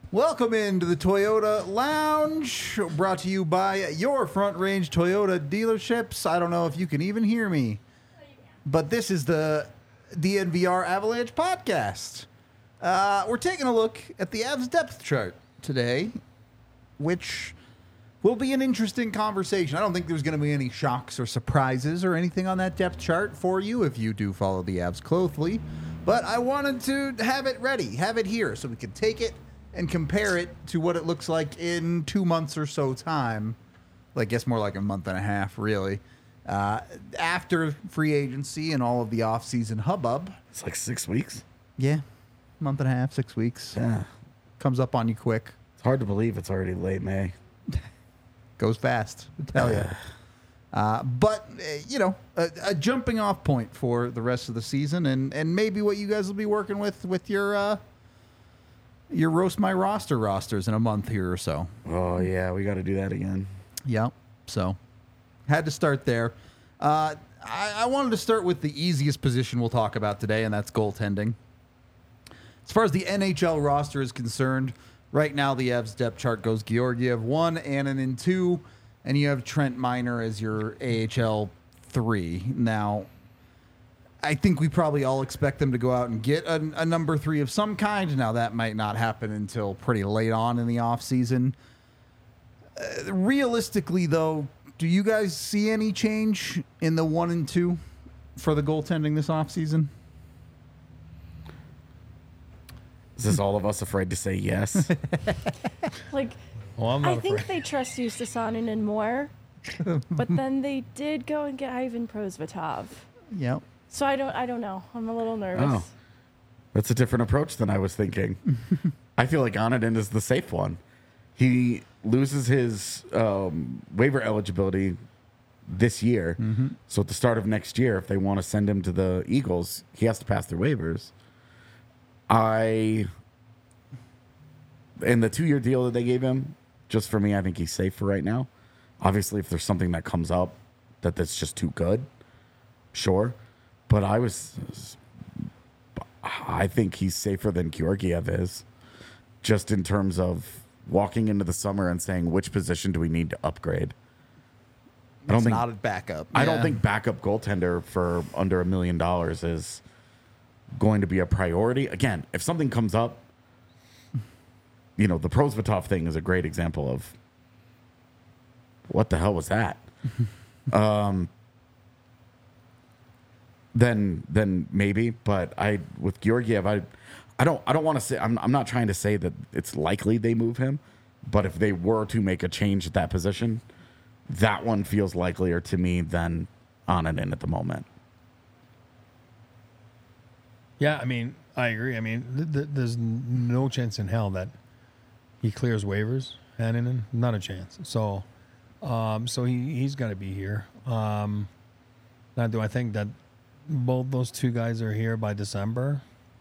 Welcome into the Toyota Lounge, brought to you by your Front Range Toyota dealerships. I don't know if you can even hear me, but this is the DNVR Avalanche podcast. We're taking a look at the Avs depth chart today, which will be an interesting conversation. I don't think there's going to be any shocks or surprises or anything on that depth chart for you if you do follow the Avs closely, but I wanted to have it ready, have it here, so we could take it and compare it to what it looks like in 2 months or so time. I guess more like a month and a half, really. After free agency and all of the off-season hubbub. It's like 6 weeks. Yeah, month and a half, 6 weeks. Yeah. Comes up on you quick. It's hard to believe it's already late May. Goes fast, I tell you. But, a jumping off point for the rest of the season and maybe what you guys will be working with your Roast My Roster rosters in a month here or so. Oh, yeah, we got to do that again. Yep. So, had to start there. I wanted to start with the easiest position we'll talk about today, and that's goaltending. As far as the NHL roster is concerned, right now the Avs depth chart goes Georgiev 1, Annunen 2, and you have Trent Miner as your AHL 3. Now, I think we probably all expect them to go out and get a number 3 of some kind. Now, that might not happen until pretty late on in the offseason. Realistically, though, do you guys see any change in the 1 and 2 for the goaltending this offseason? Is this all of us afraid to say yes? I think they trust Justus Annunen more, but then they did go and get Ivan Prosvetov. Yep. So I don't know. I'm a little nervous. Oh, that's a different approach than I was thinking. I feel like Annunen is the safe one. He loses his waiver eligibility this year. Mm-hmm. So at the start of next year, if they want to send him to the Eagles, he has to pass their waivers. In the 2-year deal that they gave him, just for me, I think he's safe for right now. Obviously, if there's something that comes up that's just too good, sure. But I think he's safer than Georgiev is, just in terms of walking into the summer and saying, which position do we need to upgrade? It's not a backup. I don't think backup goaltender for under $1 million is going to be a priority. Again, if something comes up, the Prosvetov thing is a great example of what the hell was that? Then maybe, but with Georgiev, I don't want to say, I'm not trying to say that it's likely they move him, but if they were to make a change at that position, that one feels likelier to me than Annunen at the moment. Yeah, I mean, I agree. I mean, there's no chance in hell that he clears waivers, Annunen. Not a chance. So he's got to be here. Now, do I think that both those two guys are here by December?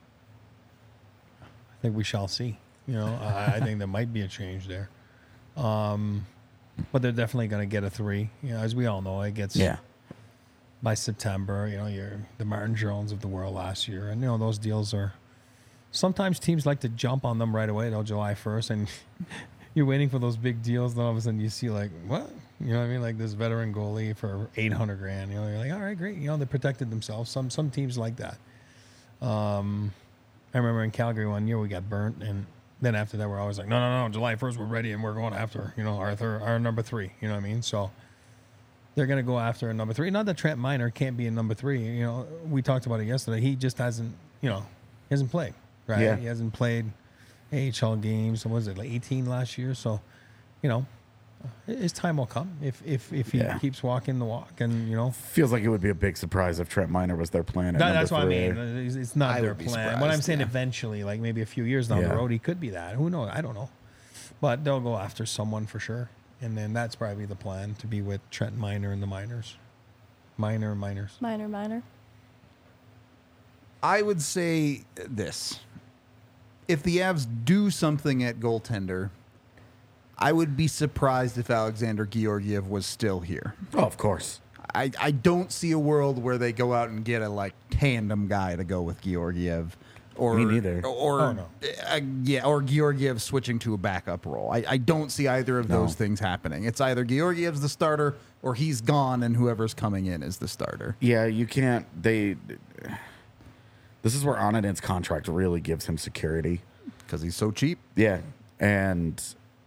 I think we shall see. I think there might be a change there. But they're definitely going to get a 3. As we all know, it gets by September. You're the Martin Jones of the world last year, and those deals are. Sometimes teams like to jump on them right away, July 1st, and you're waiting for those big deals. Then all of a sudden you see what? You know what I mean? Like this veteran goalie for $800,000. You're like, all right, great. They protected themselves. Some teams like that. I remember in Calgary one year we got burnt, and then after that we're always like, no, July 1st we're ready and we're going after our number 3. You know what I mean? So they're going to go after a number 3. Not that Trent Miner can't be a number 3. We talked about it yesterday. He just hasn't hasn't played. Right? Yeah. He hasn't played AHL games. What was it, like 18 last year? So, his time will come if he keeps walking the walk, and feels like it would be a big surprise if Trent Miner was their plan. That's what I mean. It's not their plan. What I'm saying, yeah. Eventually, like maybe a few years down the road, he could be that. Who knows? I don't know, but they'll go after someone for sure, and then that's probably the plan to be with Trent Miner and the Miners. Miners. Miner. I would say this. If the Avs do something at goaltender, I would be surprised if Alexander Georgiev was still here. Oh, of course. I don't see a world where they go out and get a tandem guy to go with Georgiev. Or, Me neither. Or Oh, no. Or Georgiev switching to a backup role. I don't see either of those things happening. It's either Georgiev's the starter or he's gone and whoever's coming in is the starter. Yeah, you can't. This is where Onadin's contract really gives him security. Because he's so cheap. Yeah, and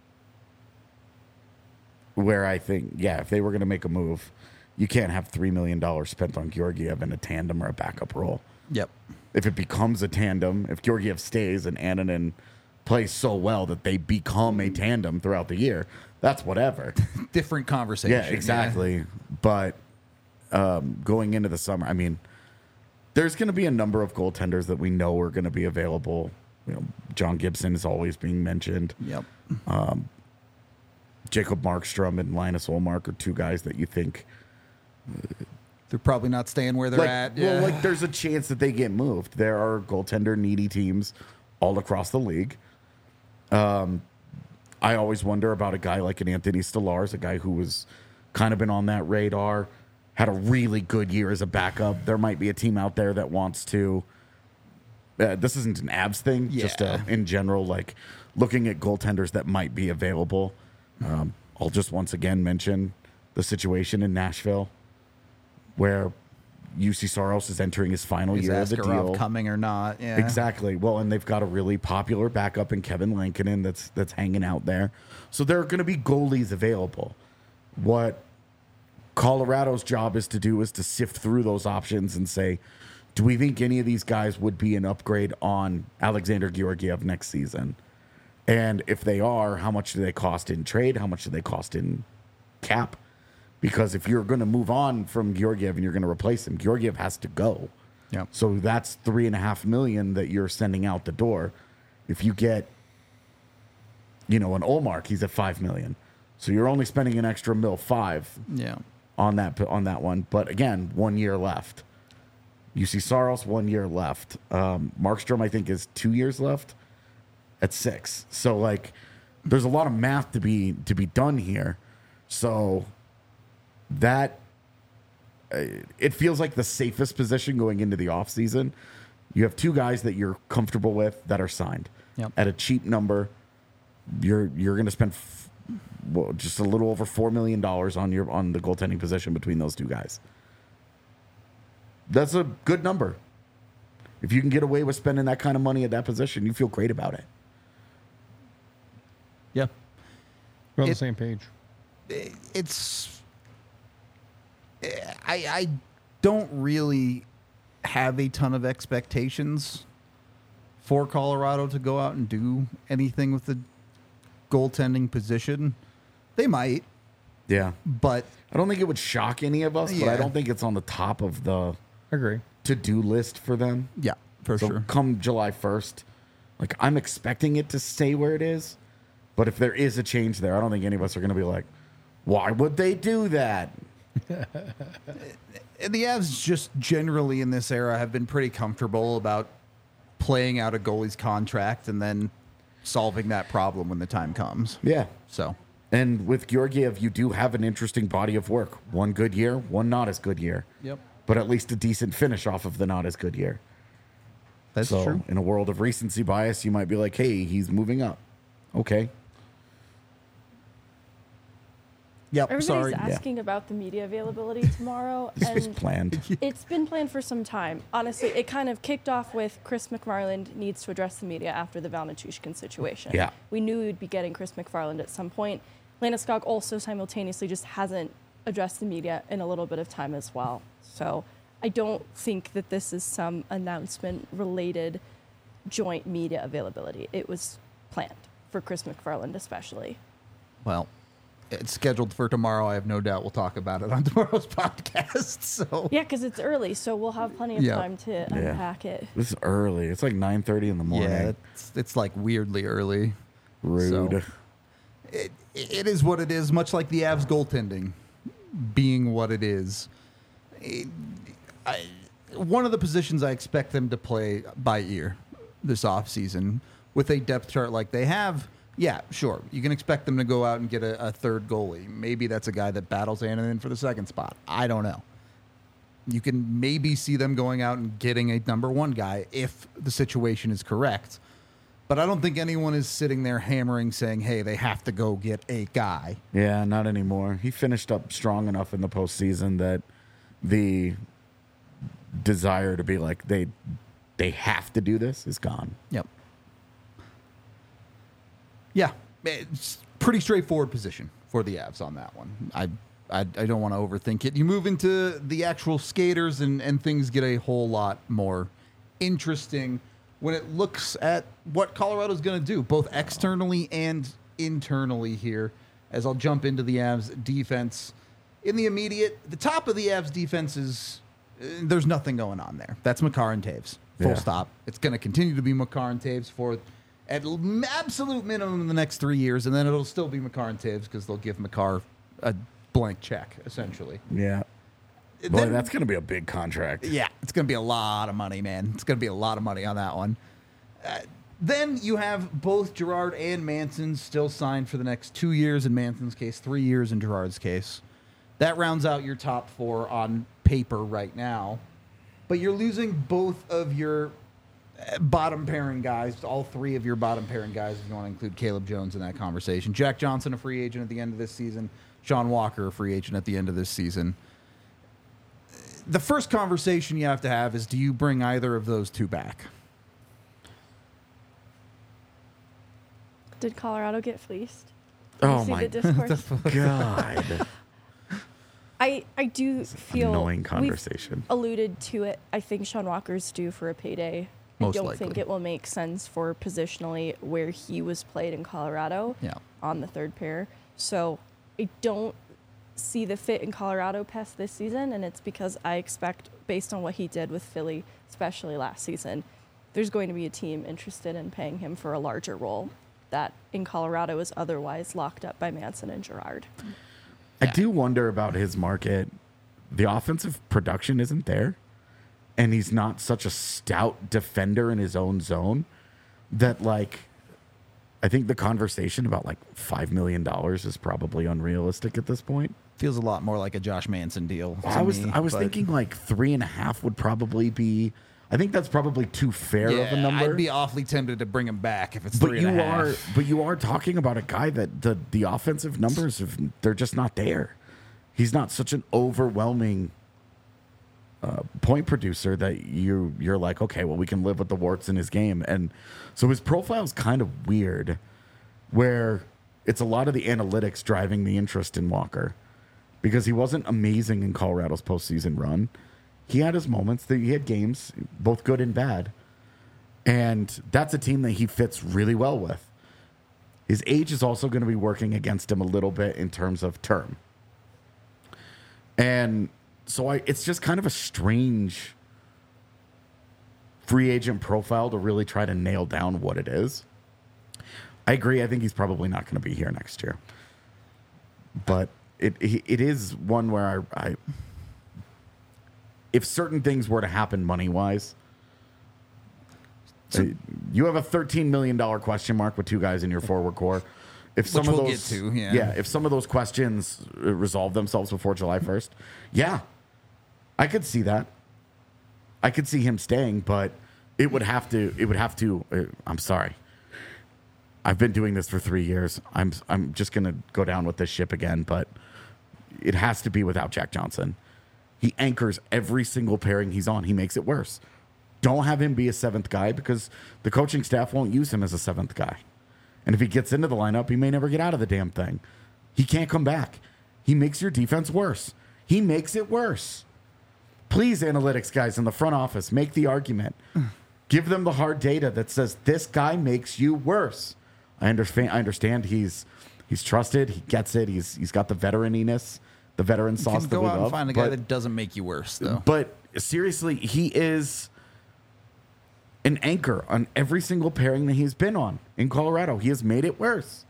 where I think, if they were going to make a move, you can't have $3 million spent on Georgiev in a tandem or a backup role. Yep. If it becomes a tandem, if Georgiev stays and Ananen plays so well that they become a tandem throughout the year, that's whatever. Different conversation. Yeah, exactly. But going into the summer, I mean, there's going to be a number of goaltenders that we know are going to be available. You know, John Gibson is always being mentioned. Yep. Jacob Markstrom and Linus Olmark are two guys that you think They're probably not staying where they're at. Yeah. Well, like there's a chance that they get moved. There are goaltender needy teams all across the league. I always wonder about a guy like an Anthony Stolarz, a guy who was kind of been on that radar, had a really good year as a backup. There might be a team out there that wants to. This isn't an Avs thing, just in general, like looking at goaltenders that might be available. I'll just once again mention the situation in Nashville, where UC Saros is entering his final Is year of the Askarov deal. coming or not? Yeah. Exactly. Well, and they've got a really popular backup in Kevin Lankinen that's hanging out there. So there are going to be goalies available. What Colorado's job is to do is to sift through those options and say, do we think any of these guys would be an upgrade on Alexander Georgiev next season? And if they are, how much do they cost in trade? How much do they cost in cap? Because if you're going to move on from Georgiev and you're going to replace him, Georgiev has to go. Yep. So that's $3.5 million that you're sending out the door. If you get, an Olmark, he's at $5 million. So you're only spending an extra $5 Yeah. on that one. But again, 1 year left. UC Saros, 1 year left. Markstrom, I think, is 2 years left at 6. So like, there's a lot of math to be done here. So that it feels like the safest position going into the offseason. You have two guys that you're comfortable with that are signed at a cheap number. You're going to spend just a little over $4 million on the goaltending position between those two guys. That's a good number. If you can get away with spending that kind of money at that position, you feel great about it. Yeah. We're on the same page. I don't really have a ton of expectations for Colorado to go out and do anything with the goaltending position. They might, Yeah. but I don't think it would shock any of us, but I Yeah. don't think it's on the top of the I agree. to-do list for them. yeah, for So sure. come July 1st, like I'm expecting it to stay where it is, but if there is a change there, I don't think any of us are going to be like, why would they do that? And the Avs just generally in this era have been pretty comfortable about playing out a goalie's contract and then solving that problem when the time comes. Yeah. So, And with Georgiev, you do have an interesting body of work. One good year, one not as good year. Yep. But at least a decent finish off of the not as good year. that's So true. in a world of recency bias, you might be like, hey, he's moving up. Okay. Yep. Everybody's Sorry. asking about the media availability tomorrow, This was and planned. it's been planned for some time. Honestly, it kind of kicked off with Chris McFarland needs to address the media after the Val Nichushkin situation. Yeah. We knew we would be getting Chris McFarland at some point. Landeskog also simultaneously just hasn't addressed the media in a little bit of time as well. So I don't think that this is some announcement-related joint media availability. It was planned for Chris McFarland especially. Well, it's scheduled for tomorrow. I have no doubt we'll talk about it on tomorrow's podcast. So, Yeah, because it's early, so we'll have plenty of Yeah. time to unpack it. This is early. It's like 9:30 in the morning. yeah, it's like weirdly early. Rude. So, it is what it is, much like the Avs goaltending being what it is. One of the positions I expect them to play by ear this offseason with a depth chart like they have, yeah, sure. You can expect them to go out and get a third goalie. Maybe that's a guy that battles Ananen for the second spot. I don't know. You can maybe see them going out and getting a number one guy if the situation is correct. But I don't think anyone is sitting there hammering saying, hey, they have to go get a guy. Yeah, not anymore. He finished up strong enough in the postseason that the desire to be like, they have to do this is gone. Yep. Yeah, it's pretty straightforward position for the Avs on that one. I don't want to overthink it. You move into the actual skaters and things get a whole lot more interesting when it looks at what Colorado's going to do, both externally and internally here, as I'll jump into the Avs defense. In the immediate, the top of the Avs defense is, there's nothing going on there. That's Makar and Taves. Full stop. It's going to continue to be Makar and Taves for at absolute minimum in the next 3 years, and then it'll still be Makar and Taves because they'll give Makar a blank check, essentially. Yeah. Boy, that's going to be a big contract. Yeah, it's going to be a lot of money, man. It's going to be a lot of money on that one. Then you have both Girard and Manson still signed for the next 2 years in Manson's case, 3 years in Girard's case. That rounds out your top four on paper right now. But you're losing both of your bottom pairing guys, all three of your bottom pairing guys, if you want to include Caleb Jones in that conversation. Jack Johnson, a free agent at the end of this season. Sean Walker, a free agent at the end of this season. The first conversation you have to have is, do you bring either of those two back? Did Colorado get fleeced? Oh, you see my the discourse? God. I do feel annoying conversation. We've alluded to it. I think Sean Walker's due for a payday. Most I don't likely. think it will make sense for positionally where he was played in Colorado on the third pair. So I don't see the fit in Colorado past this season, and it's because I expect, based on what he did with Philly, especially last season, there's going to be a team interested in paying him for a larger role that in Colorado is otherwise locked up by Manson and Girard. I do wonder about his market. The offensive production isn't there, and he's not such a stout defender in his own zone that, like, I think the conversation about like $5 million is probably unrealistic at this point. Feels a lot more like a Josh Manson deal. I was thinking like 3.5 would probably be. I think that's probably too fair of a number. I'd be awfully tempted to bring him back if it's 3.5. But you are talking about a guy that the offensive numbers they're just not there. He's not such an overwhelming point producer that you're like, okay, well, we can live with the warts in his game. And so his profile is kind of weird, where it's a lot of the analytics driving the interest in Walker, because he wasn't amazing in Colorado's postseason run. He had his moments. He had games, both good and bad. And that's a team that he fits really well with. His age is also going to be working against him a little bit in terms of term. And so it's just kind of a strange free agent profile to really try to nail down what it is. I agree. I think he's probably not going to be here next year. But it is one where I if certain things were to happen money-wise, you have a $13 million question mark with two guys in your forward core. If some Which of we'll those, get to, yeah. if some of those questions resolve themselves before July 1st, I could see that. I could see him staying, but it would have to. I'm sorry. I've been doing this for 3 years. I'm just gonna go down with this ship again, but it has to be without Jack Johnson. He anchors every single pairing he's on. He makes it worse. Don't have him be a seventh guy because the coaching staff won't use him as a seventh guy. And if he gets into the lineup, he may never get out of the damn thing. He can't come back. He makes your defense worse. He makes it worse. Please, analytics guys in the front office, make the argument. Give them the hard data that says this guy makes you worse. I understand he's trusted. He gets it. He's got the veteraniness, the veteran sauce that we love. You can go out and find a guy that doesn't make you worse, though. But seriously, he is an anchor on every single pairing that he's been on in Colorado. He has made it worse.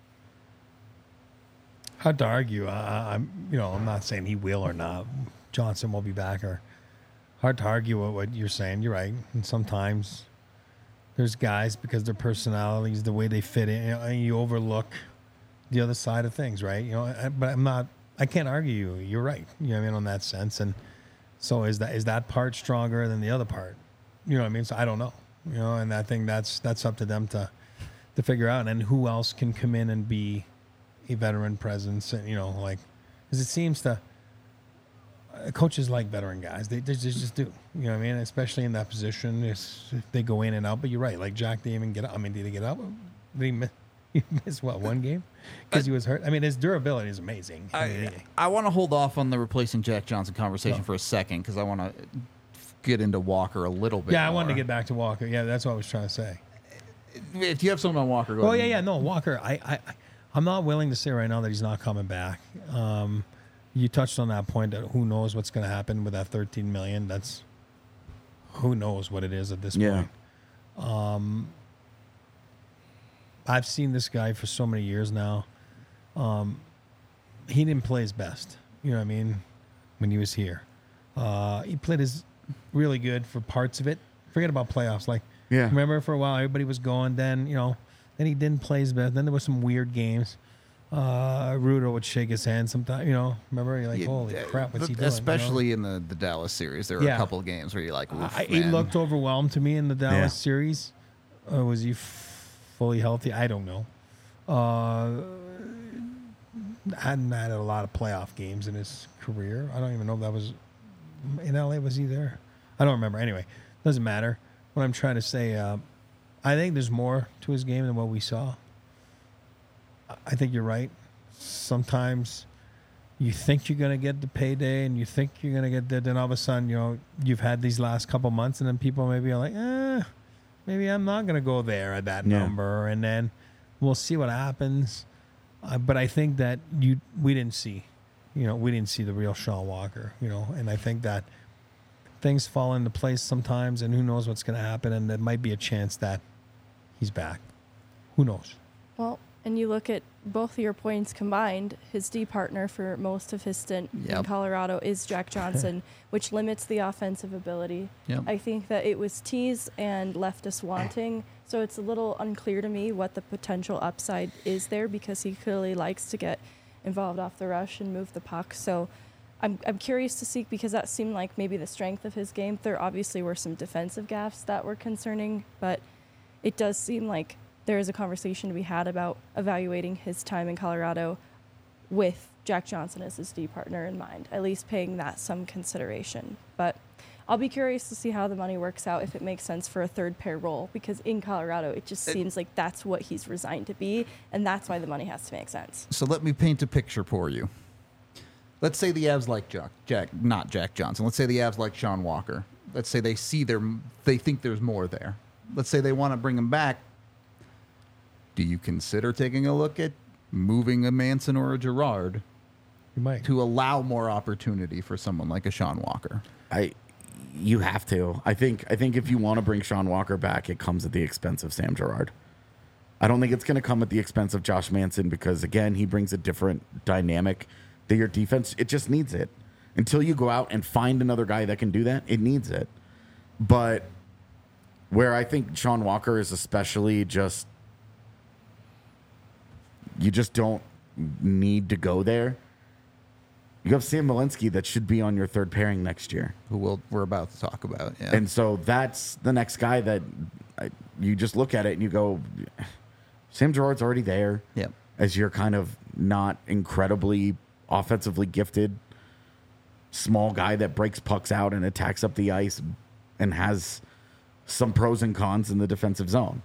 Hard to argue. I'm not saying he will or not. Johnson will be back. Or hard to argue with what you're saying. You're right. And sometimes there's guys, because their personalities, the way they fit in, you overlook the other side of things, right? But I can't argue you. You're right. On that sense. And So is that part stronger than the other part? You know what I mean? So I don't know. You know, and I think that's up to them to figure out. And who else can come in and be a veteran presence? And, you know, like, because it seems to coaches like veteran guys. They just do. You know what I mean? Especially in that position, they go in and out. But you're right. Like Jack didn't even get up. I mean, did he get up? Did he miss what, one game? Because he was hurt. I mean, his durability is amazing. I want to hold off on the replacing Jack Johnson conversation for a second because I want to get into Walker a little bit. Yeah, I more. wanted to get back to Walker. Yeah, that's what I was trying to say. If you have something on Walker, go ahead. No, Walker. I'm not willing to say right now that he's not coming back. You touched on that point that who knows what's going to happen with that $13 million. That's who knows what it is at this point. I've seen this guy for so many years now. He didn't play his best. You know what I mean? When he was here, he played his really good for parts of it. Forget about playoffs. Like, remember for a while everybody was going. Then then he didn't play his best. Then there were some weird games. Rudo would shake his hand sometimes. You know, remember? You're like, holy crap, what's he doing? Especially in the Dallas series, there were a couple of games where you're like, oof, he looked overwhelmed to me in the Dallas series. Was he fully healthy? I don't know. Hadn't had a lot of playoff games in his career. I don't even know if that was in LA. Was he there? I don't remember. Anyway, doesn't matter. What I'm trying to say, I think there's more to his game than what we saw. I think you're right. Sometimes you think you're going to get the payday and you think you're going to get that. Then all of a sudden, you've had these last couple months and then people maybe are like, maybe I'm not going to go there at that number. And then we'll see what happens. But I think that we didn't see the real Sean Walker, and I think that things fall into place sometimes and who knows what's going to happen. And there might be a chance that he's back. Who knows? Well, and you look at both of your points combined, his D partner for most of his stint in Colorado is Jack Johnson, which limits the offensive ability. Yep. I think that it was teased and left us wanting. So it's a little unclear to me what the potential upside is there because he clearly likes to get involved off the rush and move the puck. So I'm curious to see because that seemed like maybe the strength of his game. There obviously were some defensive gaffes that were concerning, but it does seem like there is a conversation to be had about evaluating his time in Colorado with Jack Johnson as his D partner in mind, at least paying that some consideration. But I'll be curious to see how the money works out, if it makes sense for a third pair role, because in Colorado, it just seems like that's what he's resigned to be, and that's why the money has to make sense. So let me paint a picture for you. Let's say the Avs like not Jack Johnson. Let's say the Avs like Sean Walker. Let's say they think there's more there. Let's say they want to bring him back. Do you consider taking a look at moving a Manson or a Girard You might. to allow more opportunity for someone like a Sean Walker? You have to. I think if you want to bring Sean Walker back, it comes at the expense of Sam Girard. I don't think it's going to come at the expense of Josh Manson because, again, he brings a different dynamic that your defense, it just needs it. Until you go out and find another guy that can do that, it needs it. But where I think Sean Walker is especially just, you just don't need to go there. You have Sam Malinsky that should be on your third pairing next year. Who we're about to talk about. Yeah. And so that's the next guy that you just look at it and you go, Sam Girard's already there. Yep. As your kind of not incredibly offensively gifted small guy that breaks pucks out and attacks up the ice and has some pros and cons in the defensive zone.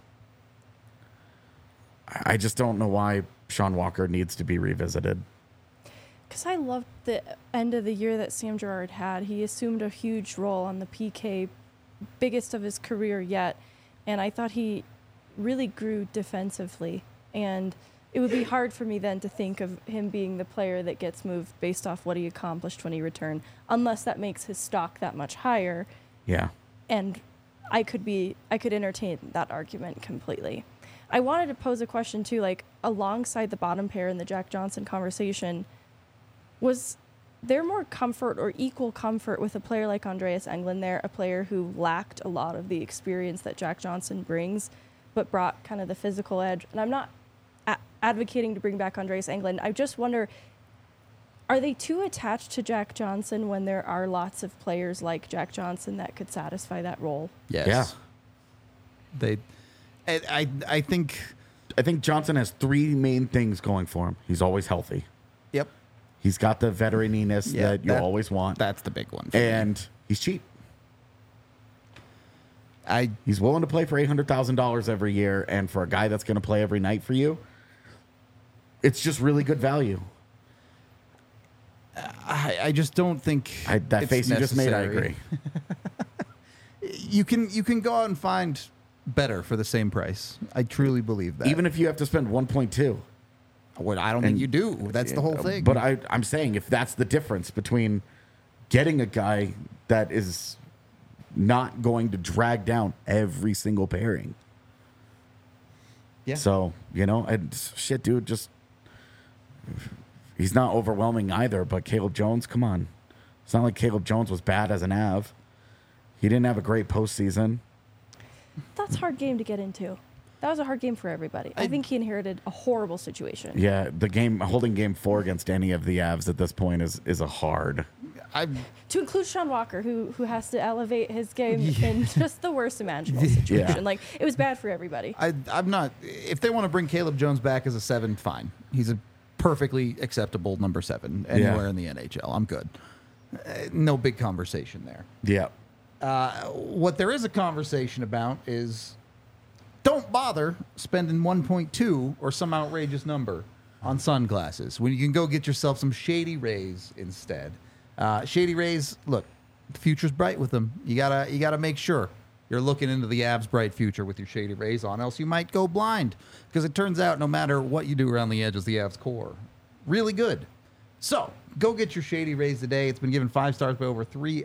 I just don't know why Sean Walker needs to be revisited. Because I loved the end of the year that Sam Girard had. He assumed a huge role on the PK, biggest of his career yet, and I thought he really grew defensively. And it would be hard for me then to think of him being the player that gets moved based off what he accomplished when he returned, unless that makes his stock that much higher. Yeah. And I could entertain that argument completely. I wanted to pose a question too, like alongside the bottom pair in the Jack Johnson conversation, was there more comfort or equal comfort with a player like Andreas Englund there, a player who lacked a lot of the experience that Jack Johnson brings, but brought kind of the physical edge? And I'm not advocating to bring back Andreas Englund. I just wonder, Are they too attached to Jack Johnson when there are lots of players like Jack Johnson that could satisfy that role? Yes. Yeah. I think. I think Johnson has three main things going for him. He's always healthy. Yep. He's got the veteraniness that you always want. That's the big one. And he's cheap. He's willing to play for $800,000 every year, and for a guy that's going to play every night for you, it's just really good value. I just don't think that it's face you just made, I agree. You can go out and find better for the same price. I truly believe that. Even if you have to spend 1.2. What I don't think you do. That's the whole thing. But I'm saying if that's the difference between getting a guy that is not going to drag down every single pairing. Yeah. So, shit, dude, just he's not overwhelming either, but Caleb Jones, come on. It's not like Caleb Jones was bad as an Av. He didn't have a great postseason. That's a hard game to get into. That was a hard game for everybody. I think he inherited a horrible situation. Yeah, holding game 4 against any of the Avs at this point is a hard. To include Sean Walker, who has to elevate his game in just the worst imaginable situation. Yeah. Like, it was bad for everybody. I'm not. If they want to bring Caleb Jones back as a 7, fine. He's a perfectly acceptable number 7 anywhere in the NHL. I'm good. No big conversation there. Yeah. What there is a conversation about is don't bother spending 1.2 or some outrageous number on sunglasses when you can go get yourself some Shady Rays instead. Shady Rays, look, the future's bright with them. You gotta make sure you're looking into the Avs' bright future with your Shady Rays on, else you might go blind. Because it turns out no matter what you do around the edges, the Avs core really good. So go get your Shady Rays today. It's been given 5 stars by over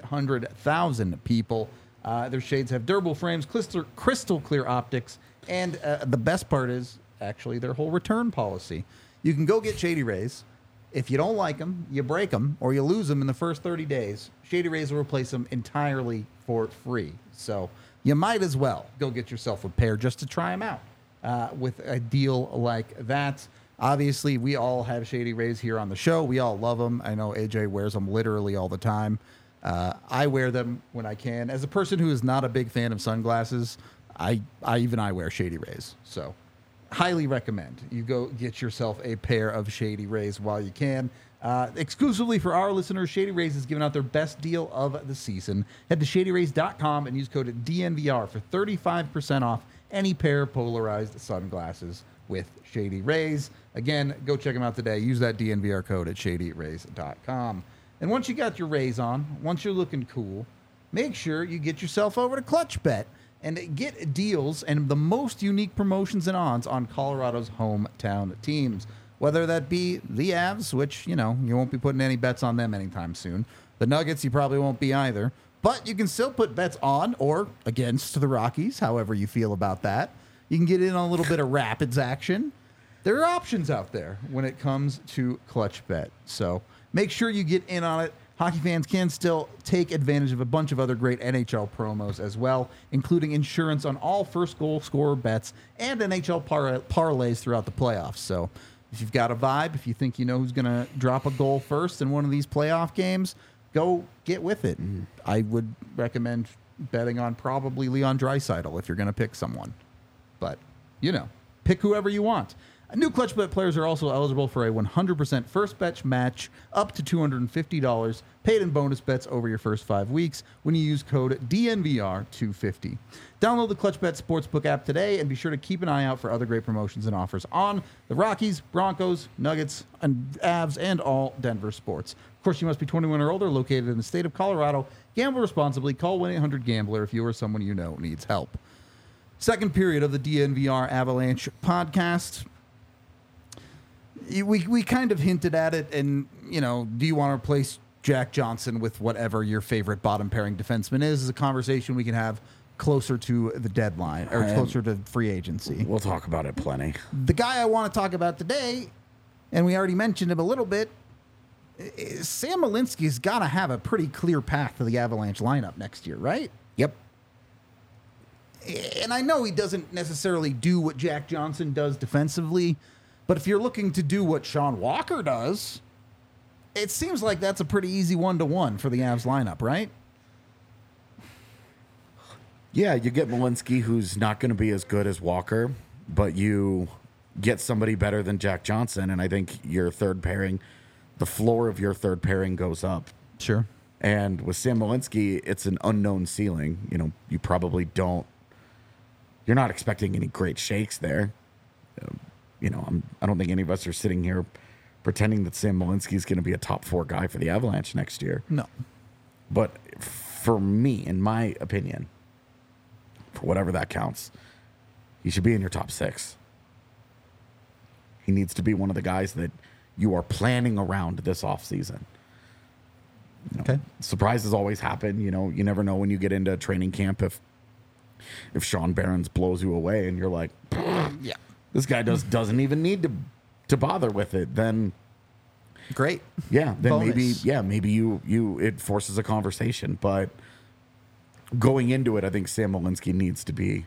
300,000 people. Their shades have durable frames, crystal clear optics, and the best part is actually their whole return policy. You can go get Shady Rays. If you don't like them, you break them, or you lose them in the first 30 days, Shady Rays will replace them entirely for free. So you might as well go get yourself a pair just to try them out with a deal like that. Obviously, we all have Shady Rays here on the show. We all love them. I know AJ wears them literally all the time. I wear them when I can. As a person who is not a big fan of sunglasses, I wear Shady Rays. So highly recommend you go get yourself a pair of Shady Rays while you can. Exclusively for our listeners, Shady Rays is giving out their best deal of the season. Head to shadyrays.com and use code DNVR for 35% off any pair of polarized sunglasses with Shady Rays. Again, go check them out today. Use that DNVR code at shadyrays.com. And once you got your Rays on, once you're looking cool, make sure you get yourself over to ClutchBet and get deals and the most unique promotions and odds on Colorado's hometown teams. Whether that be the Avs, which, you won't be putting any bets on them anytime soon. The Nuggets, you probably won't be either. But you can still put bets on or against the Rockies, however you feel about that. You can get in on a little bit of Rapids action. There are options out there when it comes to ClutchBet. So make sure you get in on it. Hockey fans can still take advantage of a bunch of other great NHL promos as well, including insurance on all first goal scorer bets and NHL parlays throughout the playoffs. So if you've got a vibe, if you think you know who's going to drop a goal first in one of these playoff games, go get with it. And I would recommend betting on probably Leon Draisaitl if you're going to pick someone. But, pick whoever you want. New ClutchBet players are also eligible for a 100% first bet match up to $250 paid in bonus bets over your first 5 weeks when you use code DNVR250. Download the ClutchBet Sportsbook app today and be sure to keep an eye out for other great promotions and offers on the Rockies, Broncos, Nuggets, and Avs, and all Denver sports. Of course, you must be 21 or older, located in the state of Colorado. Gamble responsibly. Call 1-800-GAMBLER if you or someone you know needs help. Second period of the DNVR Avalanche podcast. We kind of hinted at it, and, do you want to replace Jack Johnson with whatever your favorite bottom pairing defenseman is a conversation we can have closer to the deadline, or closer to free agency. We'll talk about it plenty. The guy I want to talk about today, and we already mentioned him a little bit, Sam Malinski's got to have a pretty clear path to the Avalanche lineup next year, right? Yep. And I know he doesn't necessarily do what Jack Johnson does defensively, but if you're looking to do what Sean Walker does, it seems like that's a pretty easy 1-to-1 for the Avs lineup, right? Yeah, you get Malinsky, who's not going to be as good as Walker, but you get somebody better than Jack Johnson, and I think your third pairing, the floor of your third pairing goes up. Sure. And with Sam Malinsky, it's an unknown ceiling. You know, you probably don't. You're not expecting any great shakes there. You know, I don't think any of us are sitting here pretending that Sam Malinsky is going to be a top 4 guy for the Avalanche next year. No. But for me, in my opinion, for whatever that counts, he should be in your top 6. He needs to be one of the guys that you are planning around this offseason. You know, Okay. surprises always happen. You know, you never know when you get into training camp if Sean Barons blows you away and you're like, Yeah. this guy doesn't even need to bother with it. Then Great. yeah, then Bonus. maybe you it forces a conversation. But going into it, I think Sam Malinsky needs to be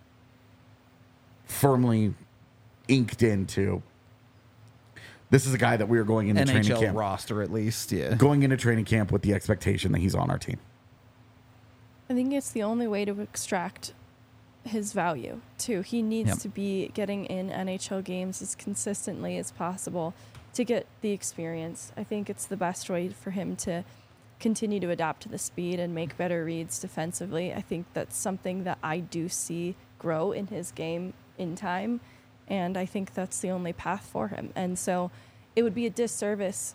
firmly inked into. This is a guy that we are going into training NHL camp. roster, at least. Yeah. Going into training camp with the expectation that he's on our team. I think it's the only way to extract his value, too. He needs Yep. to be getting in NHL games as consistently as possible to get the experience. I think it's the best way for him to continue to adapt to the speed and make better reads defensively. I think that's something that I do see grow in his game in time, and I think that's the only path for him. And so it would be a disservice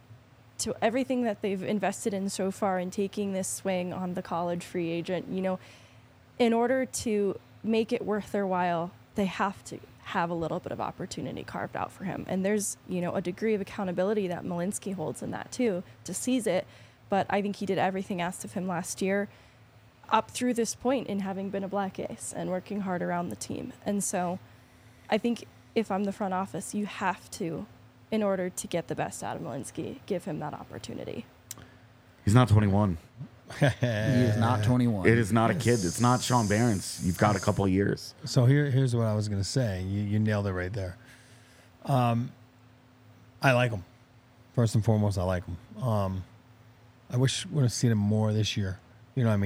to everything that they've invested in so far in taking this swing on the college free agent. You know, in order to make it worth their while, they have to have a little bit of opportunity carved out for him. And there's, you know, a degree of accountability that Malinsky holds in that too, to seize it. But I think he did everything asked of him last year up through this point in having been a Black Ace and working hard around the team. And so I think if I'm the front office, you have to, in order to get the best out of Malinsky, give him that opportunity. He's not 21. He is not 21. It is not a kid. It's not Sean Barons. You've got a couple of years. So here's what I was going to say. You nailed it right there. I like him. First and foremost, I like him. I wish we would have seen him more this year. You know what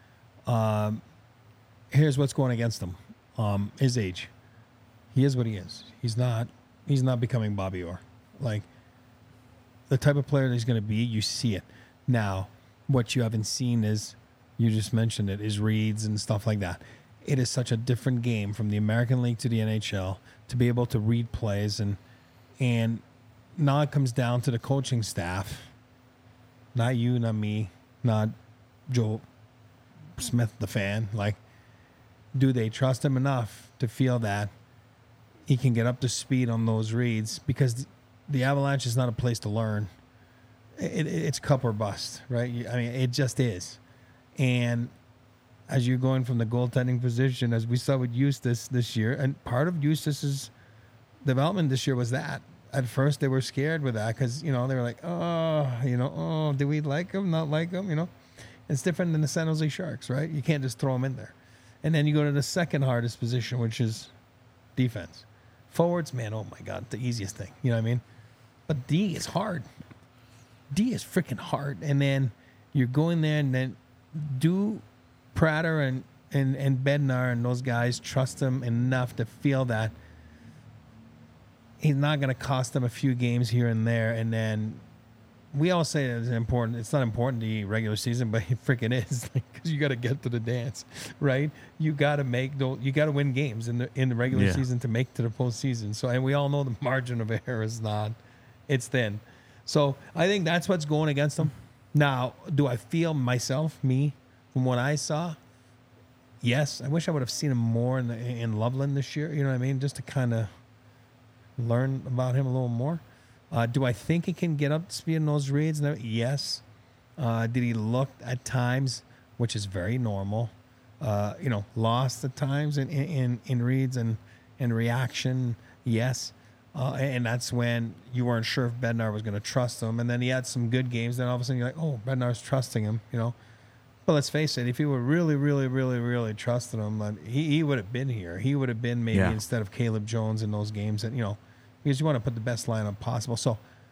I mean? Here's what's going against him. His age. He is what he is. He's not becoming Bobby Orr. Like, the type of player that he's going to be, you see it. Now, what you haven't seen is, you just mentioned it, is reads and stuff like that. It is such a different game from the American League to the NHL to be able to read plays, and now it comes down to the coaching staff. Not you, not me, not Joe Smith, the fan. Like, do they trust him enough to feel that he can get up to speed on those reads? Because the Avalanche is not a place to learn. It's cup or bust, right? I mean, it just is. And as you're going from the goaltending position, as we saw with Eustace this year, and part of Eustace's development this year was that. At first, they were scared with that because, you know, they were like, do we like him, not like him, you know? It's different than the San Jose Sharks, right? You can't just throw him in there. And then you go to the second hardest position, which is defense. Forwards, man, oh my God, the easiest thing. You know what I mean? But D is hard. D is freaking hard. And then you're going there, and then do Prater and Bednar and those guys trust him enough to feel that he's not going to cost them a few games here and there. And then we all say that it's important. It's not important to the regular season, but it freaking is, because you got to get to the dance, right? You got to win games in the regular season to make to the postseason. So, and we all know the margin of error is it's thin. So I think that's what's going against them. Now, do I feel me, from what I saw? Yes. I wish I would have seen him more in Loveland this year. You know what I mean? Just to kind of learn about him a little more. Do I think he can get up to speed in those reads? Yes. Did he look at times, which is very normal, lost at times in reads and reaction? Yes. And that's when you weren't sure if Bednar was going to trust him. And then he had some good games. Then all of a sudden you're like, oh, Bednar's trusting him, you know. But let's face it, if he were really, really, really, really trusting him, he would have been here. He would have been maybe instead of Caleb Jones in those games, that, you know, because you want to put the best lineup possible. So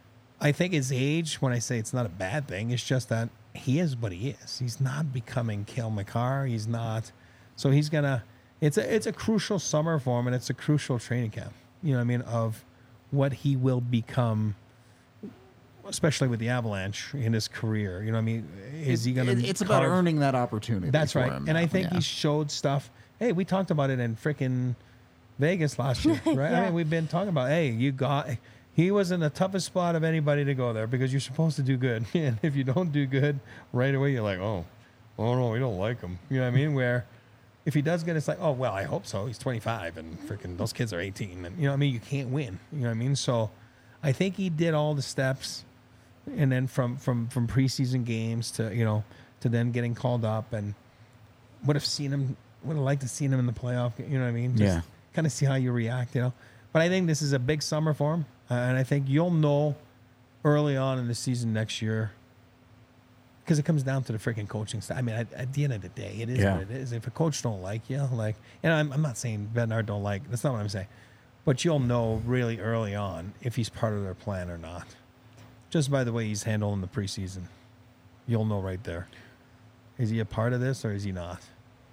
I think his age, when I say it's not a bad thing, it's just that he is what he is. He's not becoming Cale Makar. He's not. So he's going to, it's a crucial summer for him, and it's a crucial training camp, you know what I mean, of what he will become, especially with the Avalanche in his career. You know what I mean? Is he going to? It's about earning that opportunity. That's right. him And now. I think he showed stuff. Hey, we talked about it in freaking Vegas last year, right? Yeah. I mean, we've been talking about, he was in the toughest spot of anybody to go there because you're supposed to do good. And if you don't do good right away, you're like, oh no, we don't like him. You know what I mean? Where if he does good, it's like, oh, well, I hope so. He's 25 and freaking those kids are 18. And you know what I mean? You can't win. You know what I mean? So I think he did all the steps. And then from preseason games to, you know, to then getting called up, and would have liked to seen him in the playoff. You know what I mean? Just kind of see how you react, you know. But I think this is a big summer for him. And I think you'll know early on in the season next year, because it comes down to the freaking coaching staff. I mean, at the end of the day, it is what it is. If a coach don't like you, like, and I'm not saying Bednar don't like, that's not what I'm saying. But you'll know really early on if he's part of their plan or not. Just by the way he's handling the preseason. You'll know right there. Is he a part of this or is he not?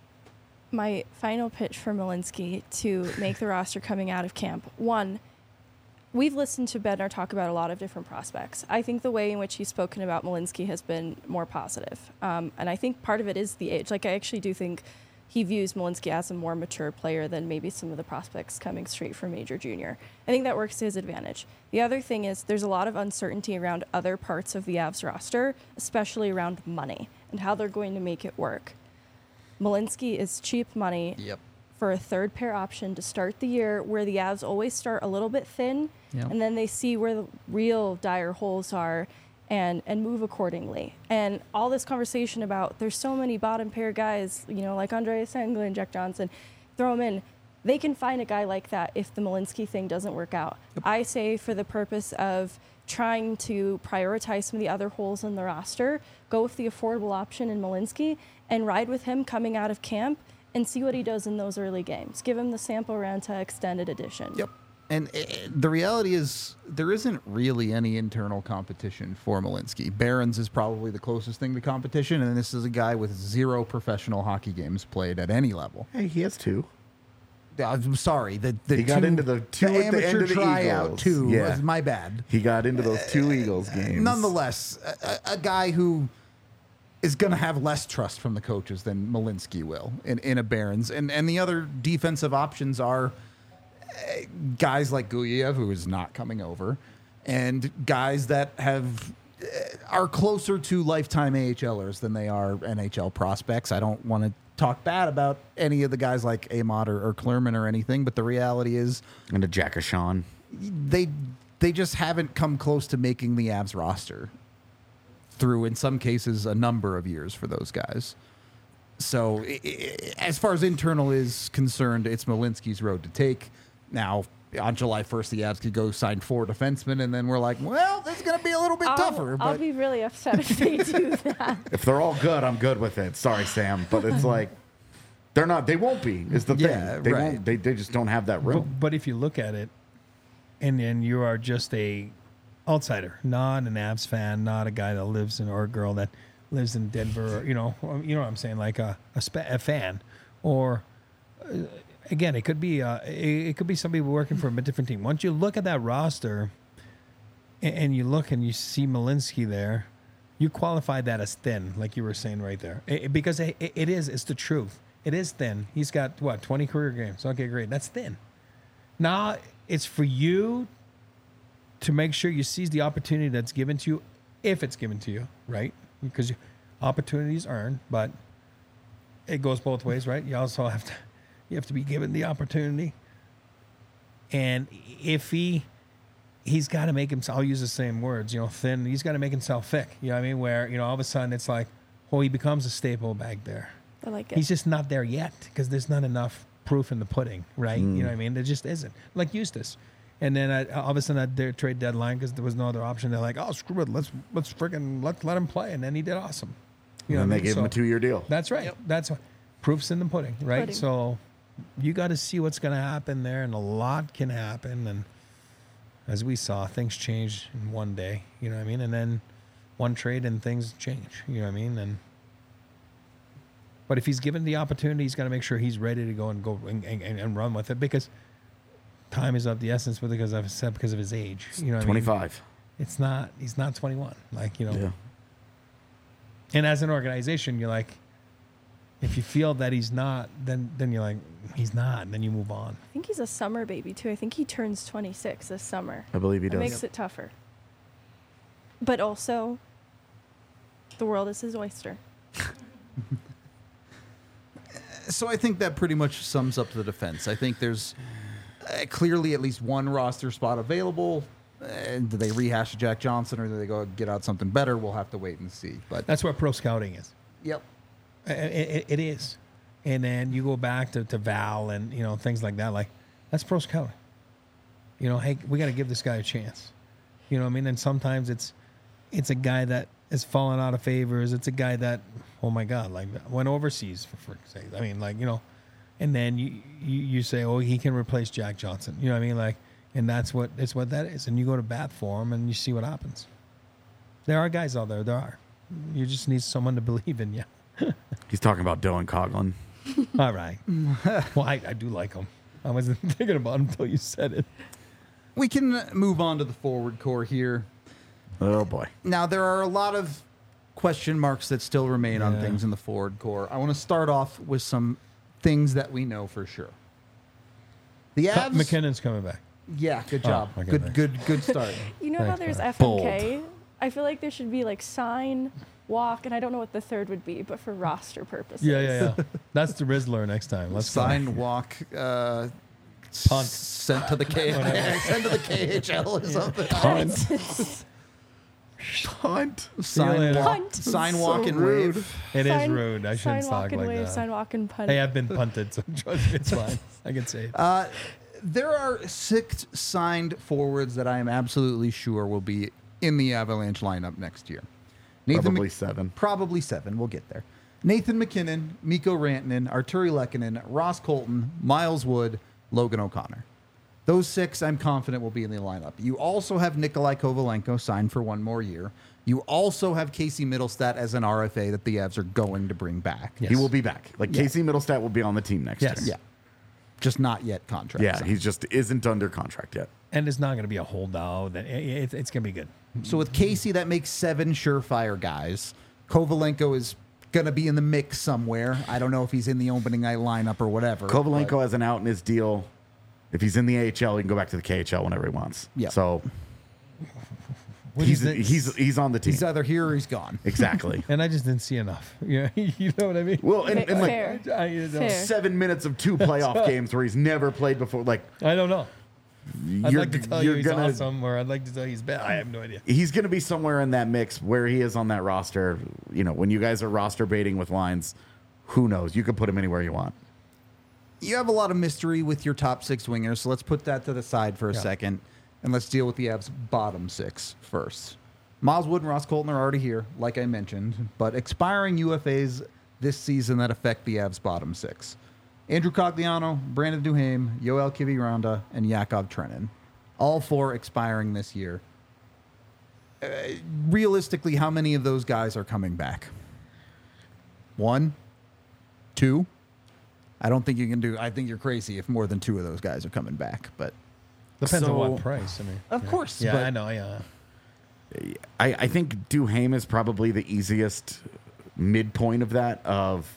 My final pitch for Malinsky to make the roster coming out of camp. One, we've listened to Bednar talk about a lot of different prospects. I think the way in which he's spoken about Malinsky has been more positive. And I think part of it is the age. Like, I actually do think he views Malinsky as a more mature player than maybe some of the prospects coming straight from Major Junior. I think that works to his advantage. The other thing is there's a lot of uncertainty around other parts of the Avs roster, especially around money and how they're going to make it work. Malinsky is cheap money for a third pair option to start the year, where the Avs always start a little bit thin, and then they see where the real dire holes are and move accordingly. And all this conversation about there's so many bottom pair guys, you know, like Andreas Englund, Jack Johnson, throw them in. They can find a guy like that if the Malinsky thing doesn't work out. I say for the purpose of trying to prioritize some of the other holes in the roster, go with the affordable option in Malinsky and ride with him coming out of camp and see what he does in those early games. Give him the sample round to extended edition. Yep. And the reality is there isn't really any internal competition for Malinsky. Barons is probably the closest thing to competition, and this is a guy with 0 professional hockey games played at any level. Hey, he has 2. I'm sorry. He got into the 2 at the end amateur of the tryout Eagles. too. Yeah. Was my bad. He got into those 2 Eagles games. Nonetheless, a guy who is going to have less trust from the coaches than Malinsky will in a Barons. And the other defensive options are guys like Guyev, who is not coming over, and guys that are closer to lifetime AHLers than they are NHL prospects. I don't want to talk bad about any of the guys like Amott or Klerman or anything, but the reality is, and a Jack Ashawn, they just haven't come close to making the Avs roster through, in some cases, a number of years for those guys. So as far as internal is concerned, it's Malinsky's road to take. Now, on July 1st, the Avs could go sign 4 defensemen, and then we're like, well, this is going to be a little bit tougher. I'll be really upset if they do that. If they're all good, I'm good with it. Sorry, Sam, but it's like they're not. They won't be. Is the thing. They won't. They just don't have that room. But if you look at it, and you are just a outsider, not an Avs fan, not a guy that lives in, or a girl that lives in Denver, or, you know what I'm saying, like a fan, or again, it could be somebody working for a different team. Once you look at that roster, and you look and you see Malinsky there, you qualify that as thin, like you were saying right there, because it's the truth. It is thin. He's got 20 career games. Okay, great. That's thin. Now it's for you to make sure you seize the opportunity that's given to you, if it's given to you, right? Because opportunities earned, but it goes both ways, right? You also have to be given the opportunity. And if he's got to make himself, I'll use the same words, thin, he's got to make himself thick. You know what I mean? Where, all of a sudden it's like, he becomes a staple back there. I like it. He's just not there yet because there's not enough proof in the pudding, right? You know what I mean? There just isn't. Like Eustace. And then all of a sudden at their trade deadline, because there was no other option, they're like, oh, screw it, let's freaking let him play. And then he did awesome. And they gave him a 2-year deal. That's right. Yep. That's what, proof's in the pudding, right? So you got to see what's going to happen there, and a lot can happen. as we saw, things change in one day. You know what I mean? And then one trade and things change. You know what I mean? But if he's given the opportunity, he's got to make sure he's ready to go and run with it, because time is of the essence. Because I've said because of his age. You know what 25. I mean? It's not. He's not 21. Like, you know. Yeah. And as an organization, you're like, if you feel that he's not, then you're like, he's not, and then you move on. I think he's a summer baby too. I think he turns 26 this summer. I believe he It does. makes it tougher. But also, the world is his oyster. So I think that pretty much sums up the defense. I think there's clearly at least one roster spot available. Do they rehash Jack Johnson, or do they go get out something better? We'll have to wait and see. But That's what pro scouting is. yep. It is. And then you go back to Val and, you know, things like that. Like, that's pro scouting. You know, hey, we got to give this guy a chance. You know what I mean? And sometimes it's a guy that is falling out of favors. It's a guy that, oh my God, like went overseas for sake. I mean, like, you know, and then you say, oh, he can replace Jack Johnson. You know what I mean? Like, and it's what that is. And you go to bat for him and you see what happens. There are guys out there. There are. You just need someone to believe in you. He's talking about Dylan Coughlin. All right. Well, I do like him. I wasn't thinking about him until you said it. We can move on to the forward core here. Oh, boy. Now, there are a lot of question marks that still remain on Yeah. things in the forward core. I want to start off with some things that we know for sure. The Avs. McKinnon's coming back. Yeah, good job. okay, thanks. Good start. You know how Thanks, there's Bob. FMK? I feel like there should be like sign, walk, and I don't know what the third would be, but for roster purposes. Yeah. That's the Rizzler next time. Let's go. Sign, walk, Punt. sent to the sent to the KHL or something. Punt. Sign, later. walk, Punt. sign, So walk, and rude. wave. It is Sign- rude. I shouldn't sign, talk walk, and like wave, that. sign, walk, and punt. Hey, I've been punted, so trust me, it's fine. I can say it. There are 6 signed forwards that I am absolutely sure will be in the Avalanche lineup next year. Probably Mc- 7. Probably 7. We'll get there. Nathan McKinnon, Mikko Rantanen, Arturi Lehkonen, Ross Colton, Miles Wood, Logan O'Connor. Those 6, I'm confident, will be in the lineup. You also have Nikolai Kovalenko signed for 1 more year. You also have Casey Middlestat as an RFA that the Avs are going to bring back. Yes. He will be back. Like, Yeah. Casey Middlestat will be on the team next Yes. year. Yeah. Just not yet contract. Yeah, signed. he just isn't under contract yet. And it's not going to be a holdout. It's going to be good. So with Casey, that makes 7 surefire guys. Kovalenko is going to be in the mix somewhere. I don't know if he's in the opening night lineup or whatever. Kovalenko but has an out in his deal. If he's in the AHL, he can go back to the KHL whenever he wants. Yeah. So What do you think? he's on the team. he's either here or he's gone. Exactly. And I just didn't see enough. Yeah, you know what I mean? Well, and like Fair. I Fair. 7 minutes of 2 playoff games where he's never played before. Like, don't know. I'd you're, like to tell you you're he's gonna, awesome, or I'd like to tell you he's bad. I have no idea. he's going to be somewhere in that mix where he is on that roster. You know, when you guys are roster baiting with lines, who knows? You could put him anywhere you want. You have a lot of mystery with your top 6 wingers, so let's put that to the side for a Yeah. second, and let's deal with the Avs' bottom 6 first. Miles Wood and Ross Colton are already here, like I mentioned, but expiring UFAs this season that affect the Avs' bottom 6. Andrew Cogliano, Brandon Duhaime, Yoel Kiviranta, and Yakov Trenin. All 4 expiring this year. Realistically, how many of those guys are coming back? 1? 2? I don't think you can do. I think you're crazy if more than 2 of those guys are coming back. But Depends on So- what price. I mean, Of course, Yeah, but- I know. Yeah. I think Duhaime is probably the easiest midpoint of that, of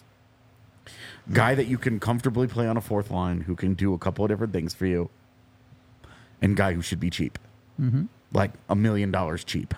guy that you can comfortably play on a 4th line, who can do a couple of different things for you, and guy who should be cheap. Like $1 million cheap.